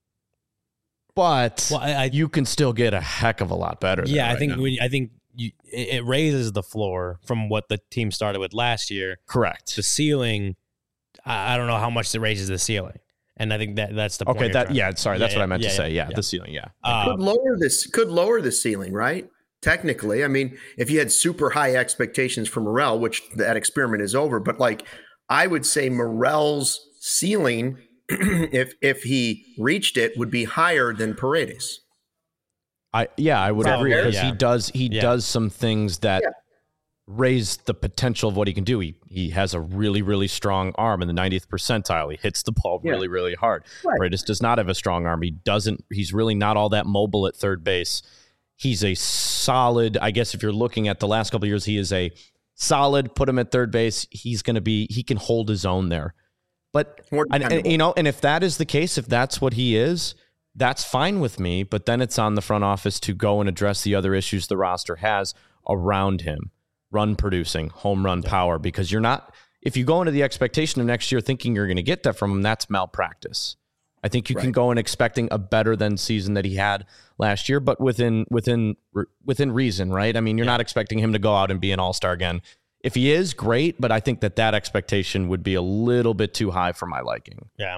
But you can still get a heck of a lot better. Yeah, I think it raises the floor from what the team started with last year. Correct. The ceiling, I don't know how much it raises the ceiling, and I think that's the point. Okay, that's what I meant to say. Yeah, the ceiling. Yeah, could lower the ceiling, right? Technically, I mean, if you had super high expectations for Morel, which that experiment is over, but like I would say Morel's ceiling, if he reached it, would be higher than Paredes. I would agree because he does some things that raise the potential of what he can do. He has a really, really strong arm in the 90th percentile. He hits the ball really, really hard. Right. Paredes does not have a strong arm. He's really not all that mobile at third base. He's a solid, I guess if you're looking at the last couple of years, he is a solid, put him at third base. He can hold his own there. But, and if that is the case, if that's what he is, that's fine with me. But then it's on the front office to go and address the other issues the roster has around him. Run producing, home run power, because if you go into the expectation of next year thinking you're going to get that from him, that's malpractice. I think you can go in expecting a better than season that he had last year, but within reason, right? I mean, you're not expecting him to go out and be an all-star again. If he is, great, but I think that expectation would be a little bit too high for my liking. Yeah.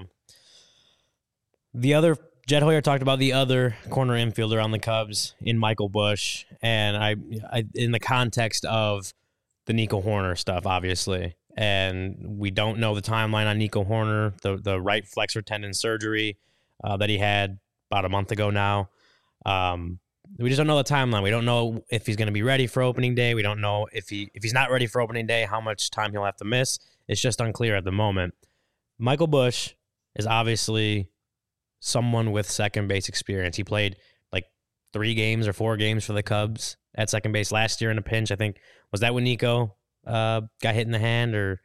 Jed Hoyer talked about the other corner infielder on the Cubs in Michael Busch, and I in the context of the Nico Hoerner stuff, obviously, and we don't know the timeline on Nico Hoerner, the right flexor tendon surgery that he had about a month ago now. We just don't know the timeline. We don't know if he's going to be ready for opening day. We don't know if he's not ready for opening day, how much time he'll have to miss. It's just unclear at the moment. Michael Busch is obviously someone with second base experience. He played like 3 games or 4 games for the Cubs at second base last year in a pinch. I think, was that when Nico got hit in the hand? Or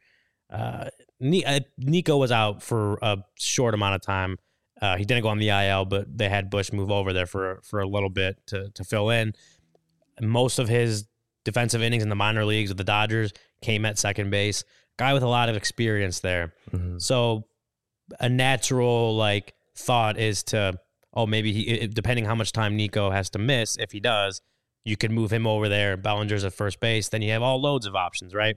Nico was out for a short amount of time. He didn't go on the IL, but they had Busch move over there for a little bit to fill in. Most of his defensive innings in the minor leagues with the Dodgers came at second base. Guy with a lot of experience there. Mm-hmm. So a natural thought is to, maybe depending how much time Nico has to miss, if he does, you could move him over there. Bellinger's at first base. Then you have loads of options, right?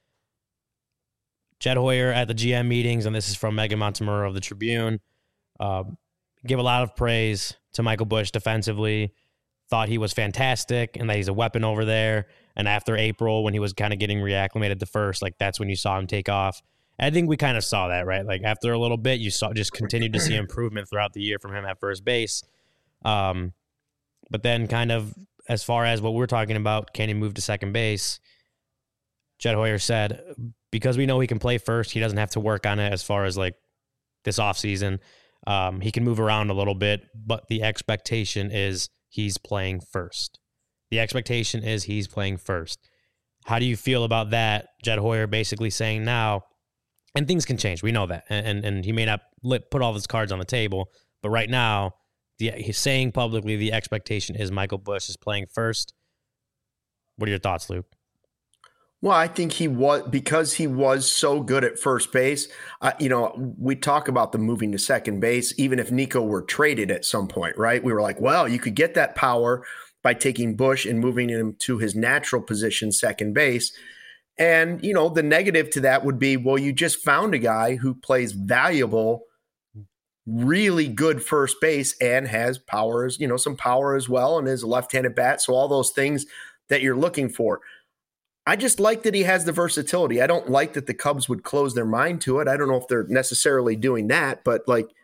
Jed Hoyer at the GM meetings, and this is from Megan Montemurro of the Tribune, give a lot of praise to Michael Busch defensively, thought he was fantastic and that he's a weapon over there. And after April, when he was kind of getting reacclimated to first, that's when you saw him take off. And I think we kind of saw that, right? After a little bit, you just continued to see improvement throughout the year from him at first base. But then kind of as far as what we're talking about, can he move to second base? Jed Hoyer said, because we know he can play first, he doesn't have to work on it as far as this offseason. He can move around a little bit, but the expectation is he's playing first. The expectation is he's playing first. How do you feel about that? Jed Hoyer basically saying now, and things can change. We know that. And he may not put all of his cards on the table. But right now, he's saying publicly the expectation is Michael Busch is playing first. What are your thoughts, Luke? Well, I think he was, because he was so good at first base. We talk about the moving to second base, even if Nico were traded at some point, right? We were like, well, you could get that power by taking Busch and moving him to his natural position, second base. And, the negative to that would be, well, you just found a guy who plays valuable, really good first base and has powers, some power as well, and is a left-handed bat. So all those things that you're looking for. I just like that he has the versatility. I don't like that the Cubs would close their mind to it. I don't know if they're necessarily doing that, but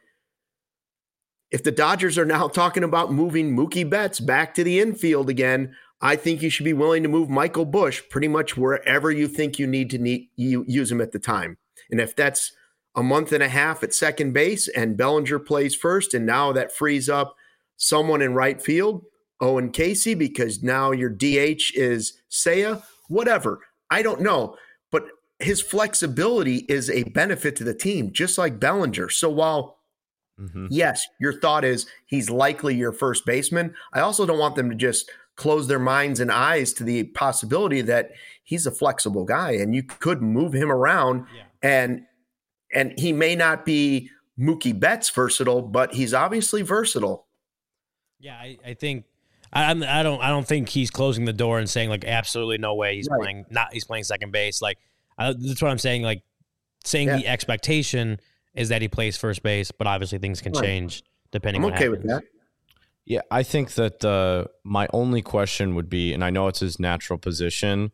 if the Dodgers are now talking about moving Mookie Betts back to the infield again, I think you should be willing to move Michael Busch pretty much wherever you think you need to use him at the time. And if that's a month and a half at second base and Bellinger plays first, and now that frees up someone in right field, Owen Casey, because now your DH is Seiya, whatever. I don't know. But his flexibility is a benefit to the team, just like Bellinger. So while, yes, your thought is he's likely your first baseman, I also don't want them to just close their minds and eyes to the possibility that he's a flexible guy and you could move him around. Yeah. And he may not be Mookie Betts versatile, but he's obviously versatile. Yeah, I think I don't think he's closing the door and saying absolutely no way he's playing second base. That's what I'm saying. The expectation is that he plays first base, but obviously things can change depending on what happens. With that. Yeah, I think that my only question would be, and I know it's his natural position,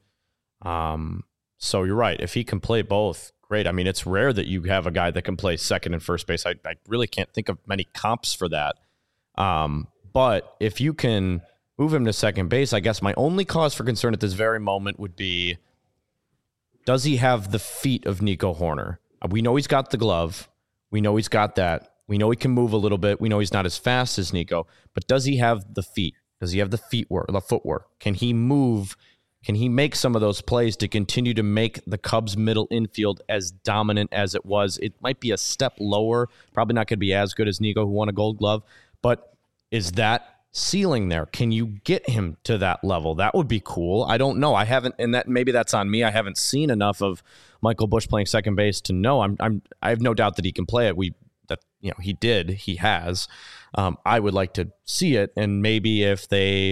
so you're right. If he can play both, great. I mean, it's rare that you have a guy that can play second and first base. I really can't think of many comps for that. But if you can move him to second base, I guess my only cause for concern at this very moment would be, does he have the feet of Nico Hoerner? We know he's got the glove. We know he's got that. We know he can move a little bit. We know he's not as fast as Nico, but does he have the feet? Does he have the footwork? Can he move? Can he make some of those plays to continue to make the Cubs middle infield as dominant as it was? It might be a step lower, probably not going to be as good as Nico, who won a Gold Glove, but is that ceiling there? Can you get him to that level? That would be cool. I don't know. I haven't, and that maybe that's on me. I haven't seen enough of Michael Busch playing second base to know. I have no doubt that he can play it. He has. I would like to see it, and maybe if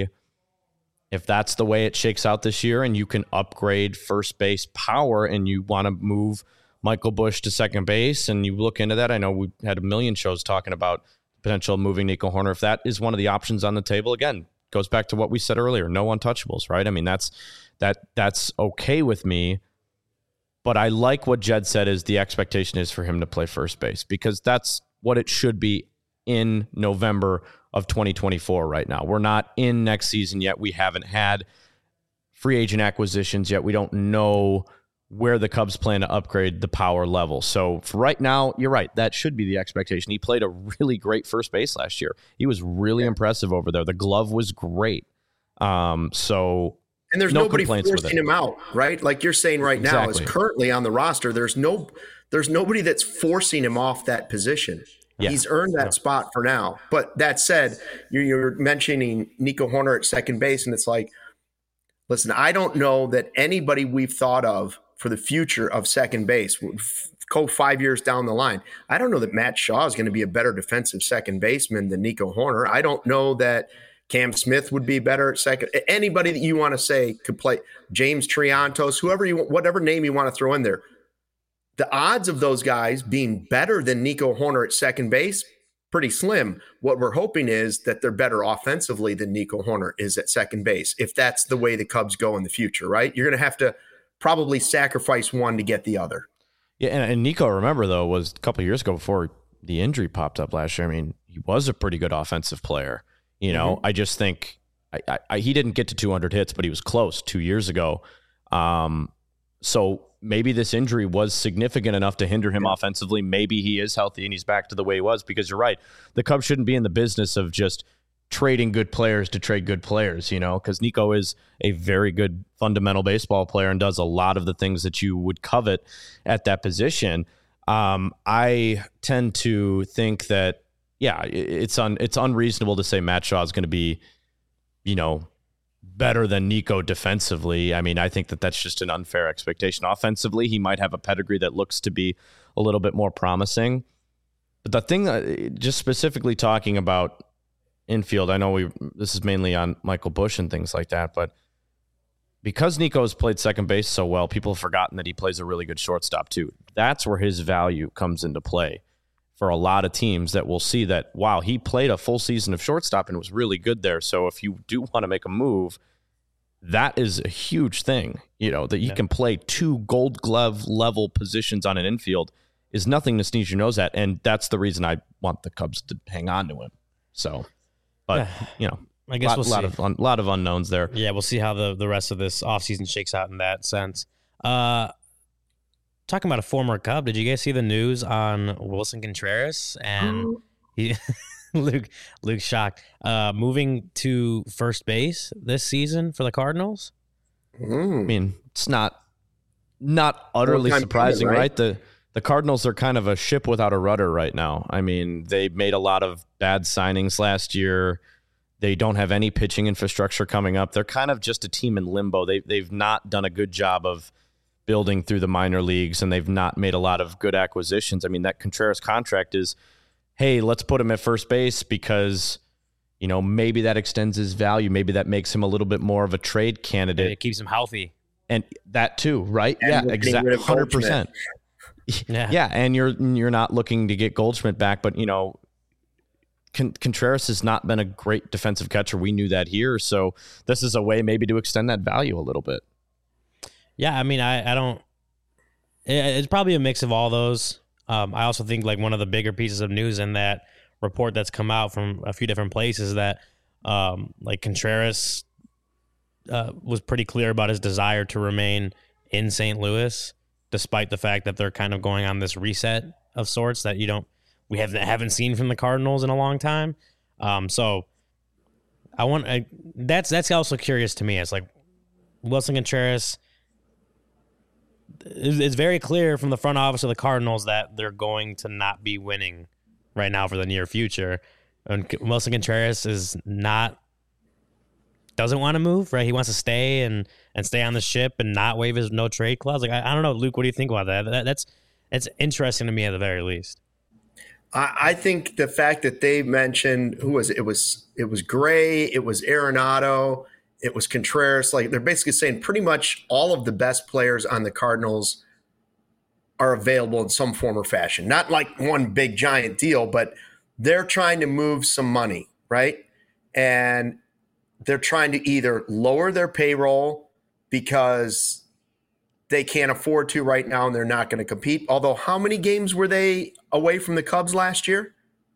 that's the way it shakes out this year, and you can upgrade first base power, and you want to move Michael Busch to second base, and you look into that. I know we had a million shows talking about potential moving Nico Hoerner. If that is one of the options on the table, again, goes back to what we said earlier. No untouchables, right? I mean, that's okay with me. But I like what Jed said is the expectation is for him to play first base, because that's what it should be in November of 2024 right now. We're not in next season yet. We haven't had free agent acquisitions yet. We don't know where the Cubs plan to upgrade the power level. So for right now, you're right. That should be the expectation. He played a really great first base last year. He was really impressive over there. The glove was great. And there's nobody forcing him out, right? Like you're saying right now, is currently on the roster. There's nobody that's forcing him off that position. Yeah. He's earned that spot for now. But that said, you're mentioning Nico Hoerner at second base, and it's like, listen, I don't know that anybody we've thought of for the future of second base, go 5 years down the line, I don't know that Matt Shaw is going to be a better defensive second baseman than Nico Hoerner. I don't know that Cam Smith would be better at second. Anybody that you want to say could play, James Triantos, whatever name you want to throw in there. The odds of those guys being better than Nico Hoerner at second base, pretty slim. What we're hoping is that they're better offensively than Nico Hoerner is at second base, if that's the way the Cubs go in the future, right? You're going to have to probably sacrifice one to get the other. Yeah, and Nico, remember, though, was a couple of years ago before the injury popped up last year. I mean, he was a pretty good offensive player. You know, I just think he didn't get to 200 hits, but he was close 2 years ago. So maybe this injury was significant enough to hinder him offensively. Maybe he is healthy and he's back to the way he was, because you're right. The Cubs shouldn't be in the business of just trading good players to trade good players, because Nico is a very good fundamental baseball player and does a lot of the things that you would covet at that position. I tend to think that, it's unreasonable to say Matt Shaw is going to be, better than Nico defensively. I mean, I think that that's just an unfair expectation. Offensively, he might have a pedigree that looks to be a little bit more promising. But the thing that, just specifically talking about infield, I know this is mainly on Michael Busch and things like that, but because Nico has played second base so well, people have forgotten that he plays a really good shortstop too. That's where his value comes into play for a lot of teams that will see that, wow, he played a full season of shortstop and was really good there. So if you do want to make a move, that is a huge thing, that you can play 2 Gold Glove level positions on an infield is nothing to sneeze your nose at. And that's the reason I want the Cubs to hang on to him. So, but I guess we'll see. A lot of unknowns there. Yeah, we'll see how the rest of this offseason shakes out in that sense. Talking about a former Cub, did you guys see the news on Wilson Contreras and Luke shocked, moving to first base this season for the Cardinals? I mean, it's not utterly surprising, right? The Cardinals are kind of a ship without a rudder right now. I mean, they made a lot of bad signings last year. They don't have any pitching infrastructure coming up. They're kind of just a team in limbo. They've not done a good job of building through the minor leagues, and they've not made a lot of good acquisitions. I mean, that Contreras contract is, hey, let's put him at first base because, maybe that extends his value. Maybe that makes him a little bit more of a trade candidate. And it keeps him healthy. And that too, right? And exactly. 100%. Yeah. And you're not looking to get Goldschmidt back, but, Contreras has not been a great defensive catcher. We knew that here. So this is a way maybe to extend that value a little bit. Yeah, I mean, I don't. It's probably a mix of all those. I also think like one of the bigger pieces of news in that report that's come out from a few different places that like Contreras was pretty clear about his desire to remain in St. Louis, despite the fact that they're kind of going on this reset of sorts that we haven't seen from the Cardinals in a long time. So that's also curious to me. It's like Wilson Contreras. It's very clear from the front office of the Cardinals that they're going to not be winning right now for the near future. And Wilson Contreras doesn't want to move, right? He wants to stay and stay on the ship and not waive his no trade clause. Like I don't know, Luke, what do you think about that? That's interesting to me at the very least. I think the fact that they mentioned who was it? It was Gray, it was Arenado, it was Contreras. Like they're basically saying pretty much all of the best players on the Cardinals are available in some form or fashion. Not like one big giant deal, but they're trying to move some money, right? And they're trying to either lower their payroll because they can't afford to right now and they're not going to compete. Although how many games were they away from the Cubs last year?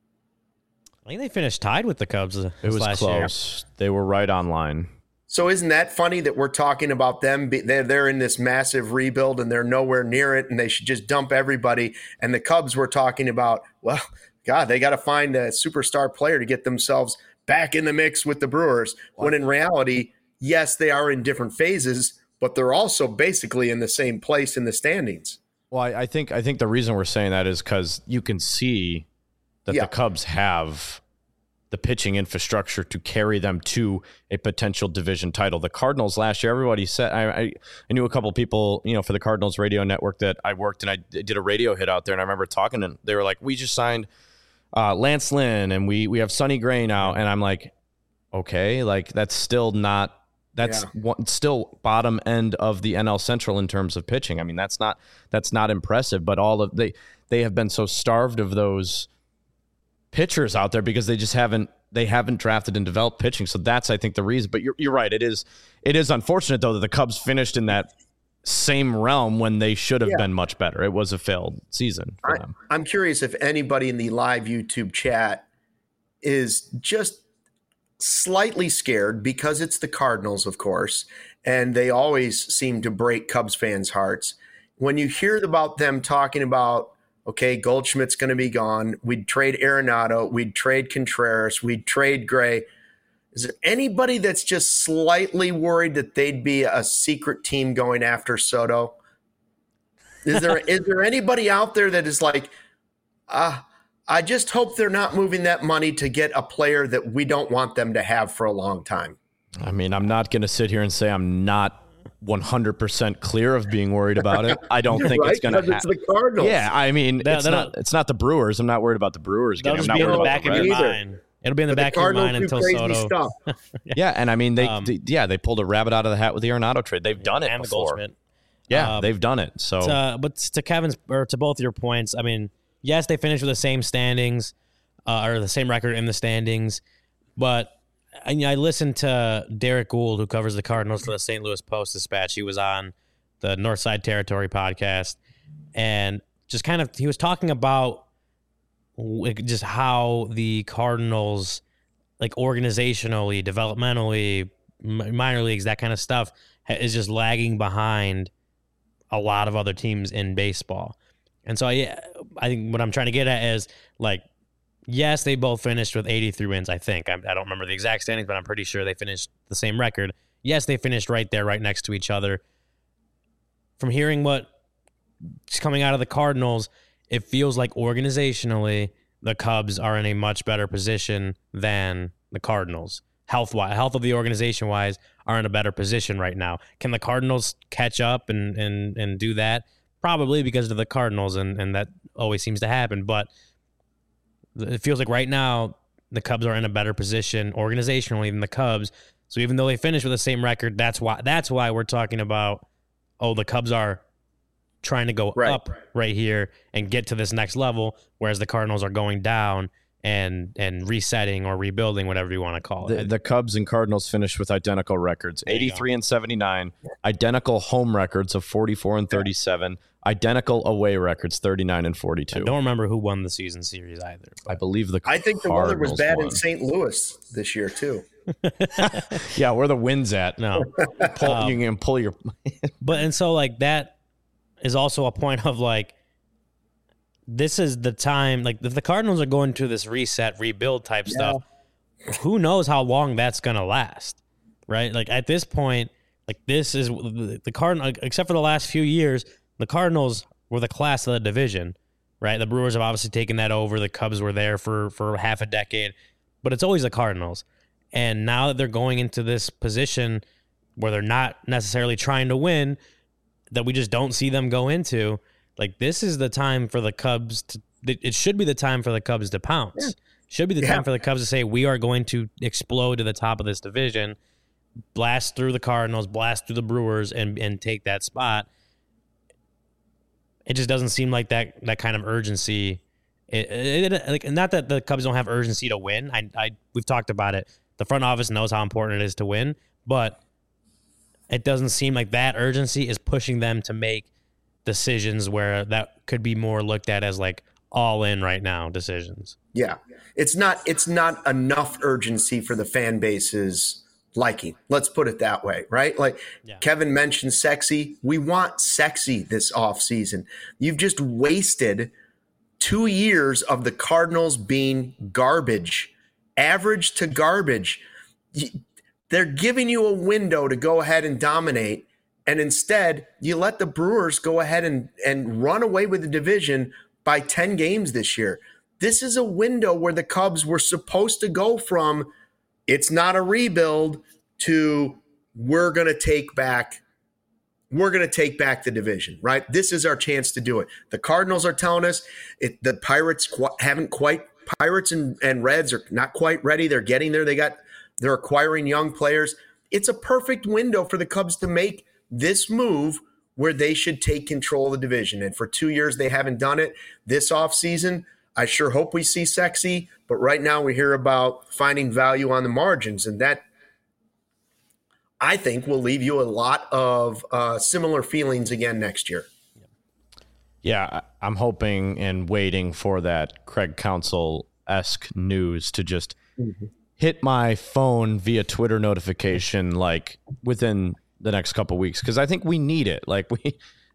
I think they finished tied with the Cubs. It was last close. year. They were right on line. So isn't that funny that we're talking about them? They're in this massive rebuild and they're nowhere near it and they should just dump everybody. And the Cubs were talking about, well, God, they got to find a superstar player to get themselves back in the mix with the Brewers. When in reality, yes, they are in different phases, but they're also basically in the same place in the standings. Well, I think the reason we're saying that is because you can see that the Cubs have the pitching infrastructure to carry them to a potential division title. The Cardinals last year, everybody said, I knew a couple of people, for the Cardinals radio network that I worked and I did a radio hit out there. And I remember talking and they were like, we just signed Lance Lynn and we have Sonny Gray now. And I'm like, okay, like that's still not, still bottom end of the NL Central in terms of pitching. I mean, that's not impressive, but they have been so starved of those pitchers out there because they haven't drafted and developed pitching. So that's, I think, the reason. But you're right. It is unfortunate though that the Cubs finished in that same realm when they should have been much better. It was a failed season for them. I'm curious if anybody in the live YouTube chat is just slightly scared because it's the Cardinals, of course, and they always seem to break Cubs fans' hearts. When you hear about them talking about, okay, Goldschmidt's going to be gone, we'd trade Arenado, we'd trade Contreras, we'd trade Gray. Is there anybody that's just slightly worried that they'd be a secret team going after Soto? Is there anybody out there that is like, I just hope they're not moving that money to get a player that we don't want them to have for a long time? I mean, I'm not going to sit here and say I'm not 100% clear of being worried about it. I don't think it's going to happen. It's the Cardinals. Yeah, I mean, it's not the Brewers. I'm not worried about the Brewers. That'll just be in the back of your mind. It'll be in the back of your mind until Soto. Yeah, and I mean, they pulled a rabbit out of the hat with the Arenado trade. They've done it and before. The Goldschmidt. Yeah, they've done it. So, but to Kevin's or to both your points, I mean, yes, they finished with the same standings or the same record in the standings, but I listened to Derek Gould, who covers the Cardinals for the St. Louis Post-Dispatch. He was on the Northside Territory podcast, and just kind of he was talking about just how the Cardinals, like organizationally, developmentally, minor leagues, that kind of stuff, is just lagging behind a lot of other teams in baseball. And so I think what I'm trying to get at is, like, yes, they both finished with 83 wins, I think. I don't remember the exact standings, but I'm pretty sure they finished the same record. Yes, they finished right there, right next to each other. From hearing what's coming out of the Cardinals, it feels like organizationally the Cubs are in a much better position than the Cardinals. Health of the organization-wise are in a better position right now. Can the Cardinals catch up and do that? Probably, because of the Cardinals, and that always seems to happen. But it feels like right now the Cubs are in a better position organizationally than the Cubs. So even though they finished with the same record, that's why we're talking about, the Cubs are trying to go up right here and get to this next level, whereas the Cardinals are going down and resetting or rebuilding, whatever you want to call it. The Cubs and Cardinals finished with identical records, 83 and 79, identical home records of 44 and 37, identical away records, 39 and 42. I don't remember who won the season series either. I believe I think the weather was bad won. in St. Louis this year too. Yeah, where the wind's at. No. You can pull your... But, and so, like, that is also a point of, like, this is the time, like, if the Cardinals are going to this reset, rebuild type stuff, who knows how long that's going to last, right? Like, at this point, like, this is the Cardinals, except for the last few years, the Cardinals were the class of the division, right? The Brewers have obviously taken that over. The Cubs were there for half a decade, but it's always the Cardinals. And now that they're going into this position where they're not necessarily trying to win, that we just don't see them go into, like, this is the time for the Cubs to, it should be the time for the Cubs to pounce. Yeah. Should be the time for the Cubs to say, we are going to explode to the top of this division, blast through the Cardinals, blast through the Brewers, and take that spot. It just doesn't seem like that kind of urgency. Like, not that the Cubs don't have urgency to win. We've talked about it. The front office knows how important it is to win, but it doesn't seem like that urgency is pushing them to make decisions where that could be more looked at as, like, all in right now decisions. Yeah. It's not enough urgency for the fan base's liking. Let's put it that way, right? Like, Kevin mentioned sexy. We want sexy this offseason. You've just wasted 2 years of the Cardinals being garbage, average to garbage. They're giving you a window to go ahead and dominate, and instead you let the Brewers go ahead and run away with the division by 10 games this year. This is a window where the Cubs were supposed to go from it's not a rebuild to we're going to take back the division, right? This is our chance to do it. The Cardinals are telling us the Pirates Pirates and Reds are not quite ready. They're getting there. They're acquiring young players. It's a perfect window for the Cubs to make this move where they should take control of the division. And for 2 years, they haven't done it. This offseason, I sure hope we see sexy, but right now we hear about finding value on the margins, and that, I think, will leave you a lot of similar feelings again next year. Yeah, I'm hoping and waiting for that Craig Counsell-esque news to just hit my phone via Twitter notification, like, within the next couple of weeks, because I think we need it. Like,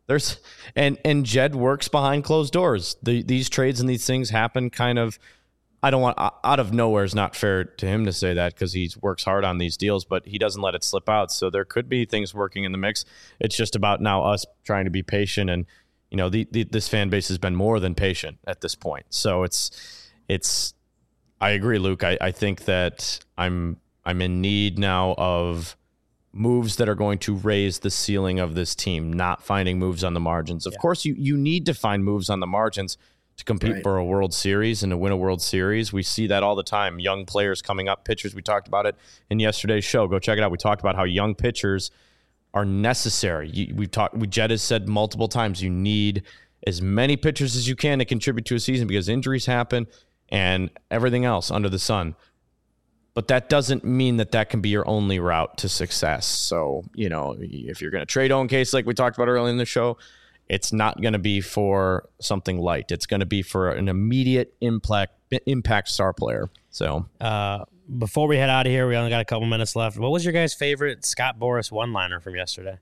and Jed works behind closed doors. These trades and these things happen kind of I don't want out of nowhere is not fair to him to say that because he works hard on these deals, but he doesn't let it slip out. So there could be things working in the mix. It's just about now us trying to be patient, and this fan base has been more than patient at this point. So it's. I agree, Luke. I think that I'm in need now of moves that are going to raise the ceiling of this team, not finding moves on the margins. Of course, you need to find moves on the margins to compete for a World Series and to win a World Series. We see that all the time. Young players coming up, pitchers. We talked about it in yesterday's show. Go check it out. We talked about how young pitchers are necessary. Jed has said multiple times, you need as many pitchers as you can to contribute to a season because injuries happen and everything else under the sun. But that doesn't mean that can be your only route to success. So, if you're going to trade Owen Case like we talked about earlier in the show, it's not going to be for something light. It's going to be for an immediate impact star player. So before we head out of here, we only got a couple minutes left. What was your guys' favorite Scott Boras one-liner from yesterday?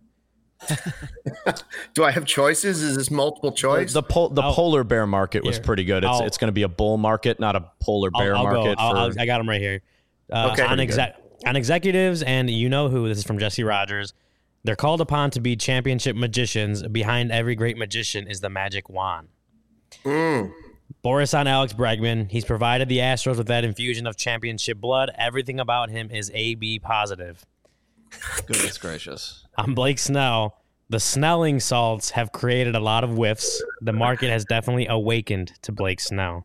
Do I have choices? Is this multiple choice? The polar bear market was pretty good. It's going to be a bull market, not a polar bear market. I got them right here. Okay. On executives and who, this is from Jesse Rogers. They're called upon to be championship magicians. Behind every great magician is the magic wand. Boras on Alex Bregman. He's provided the Astros with that infusion of championship blood. Everything about him is AB positive. Goodness gracious. On Blake Snell, the Snelling salts have created a lot of whiffs. The market has definitely awakened to Blake Snell.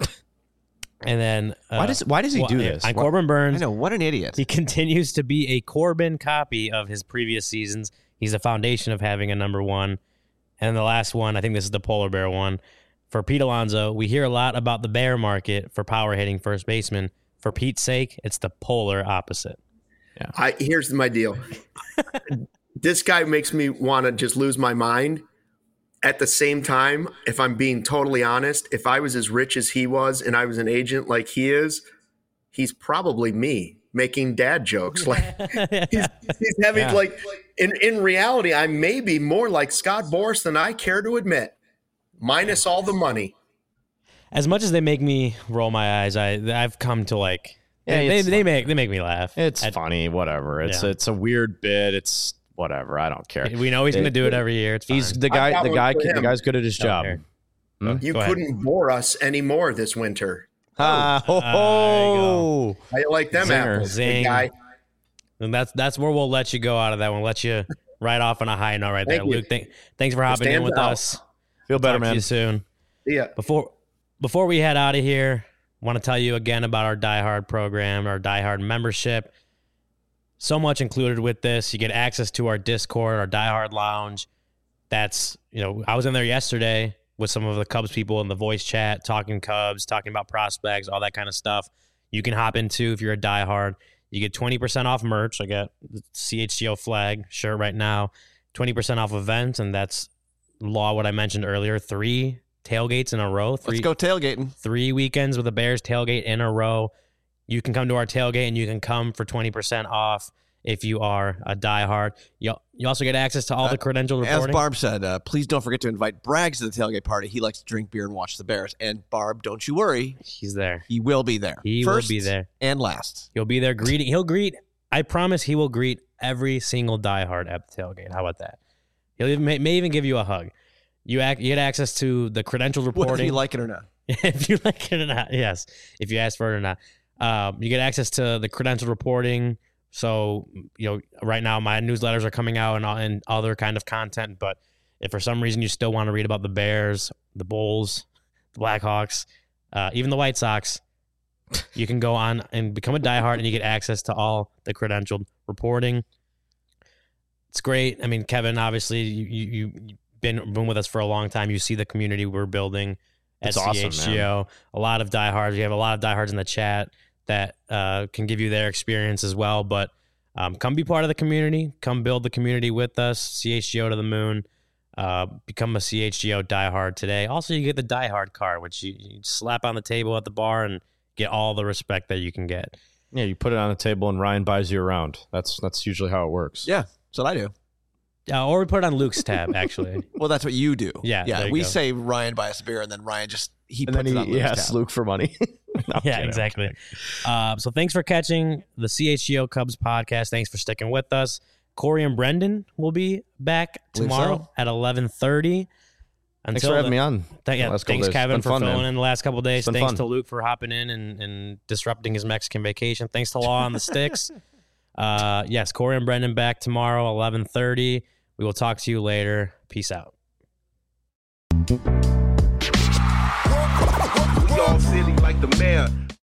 And then why does he do this? On Corbin Burns, I know, what an idiot. He continues to be a Corbin copy of his previous seasons. He's the foundation of having a number one. And the last one, I think this is the polar bear one. For Pete Alonso, we hear a lot about the bear market for power hitting first baseman. For Pete's sake, it's the polar opposite. Yeah. Here's my deal. This guy makes me want to just lose my mind. At the same time, if I'm being totally honest, if I was as rich as he was and I was an agent like he is, he's probably me making dad jokes. Like he's having like in reality, I may be more like Scott Boras than I care to admit, minus all the money. As much as they make me roll my eyes, I've come to like they make me laugh. It's funny, whatever. It's a weird bit. It's whatever. I don't care. We know he's going to do it every year. It's fine. He's the guy. The guy's good at his job. You couldn't bore us anymore this winter. How you like them apples, Zing. Guy? And that's where we'll let you go out of that one. Let you right off on a high note right there. Luke, thanks for hopping in with us. Feel better, man. See you soon. Yeah. Before we head out of here, I want to tell you again about our Die Hard program, our Die Hard membership. So much included with this. You get access to our Discord, our Die Hard Lounge. That's, I was in there yesterday with some of the Cubs people in the voice chat, talking Cubs, talking about prospects, all that kind of stuff. You can hop into if you're a Die Hard. You get 20% off merch. I got the CHGO flag shirt right now. 20% off events, and that's what I mentioned earlier. 3 tailgates in a row. Let's go tailgating. 3 weekends with a Bears tailgate in a row. You can come to our tailgate, and you can come for 20% off if you are a diehard. You also get access to all the credential reporting. As Barb said, please don't forget to invite Braggs to the tailgate party. He likes to drink beer and watch the Bears. And Barb, don't you worry. He's there. He will be there. He First will be there. And last. He'll be there greeting. I promise he will greet every single diehard at the tailgate. How about that? He'll may even give you a hug. You get access to the credential reporting. Whether you like it or not. If you like it or not, yes. If you ask for it or not. You get access to the credential reporting. So, right now my newsletters are coming out and other kind of content. But if for some reason you still want to read about the Bears, the Bulls, the Blackhawks, even the White Sox, you can go on and become a diehard and you get access to all the credentialed reporting. It's great. I mean, Kevin, obviously you've been with us for a long time. You see the community we're building at CHGO. Awesome, a lot of diehards. We have a lot of diehards in the chat that can give you their experience as well. But come be part of the community. Come build the community with us. CHGO to the moon. Become a CHGO diehard today. Also, you get the diehard card, which you slap on the table at the bar and get all the respect that you can get. Yeah, you put it on the table and Ryan buys you around. That's usually how it works. Yeah, that's what I do. Or we put it on Luke's tab, actually. Well, that's what you do. Yeah. We say Ryan buy us a beer, and then Ryan he puts it on Luke's tab. Luke for money. Yeah, exactly. So thanks for catching the CHGO Cubs podcast. Thanks for sticking with us. Corey and Brendan will be back tomorrow at 11:30. Thanks for having me on. Thanks, Kevin, for filling in the last couple of days. Thanks fun. to Luke for hopping in and disrupting his Mexican vacation. Thanks to Law on the Sticks. Yes, Corey and Brendan back tomorrow, 11:30. We will talk to you later. Peace out. We all silly like the mayor.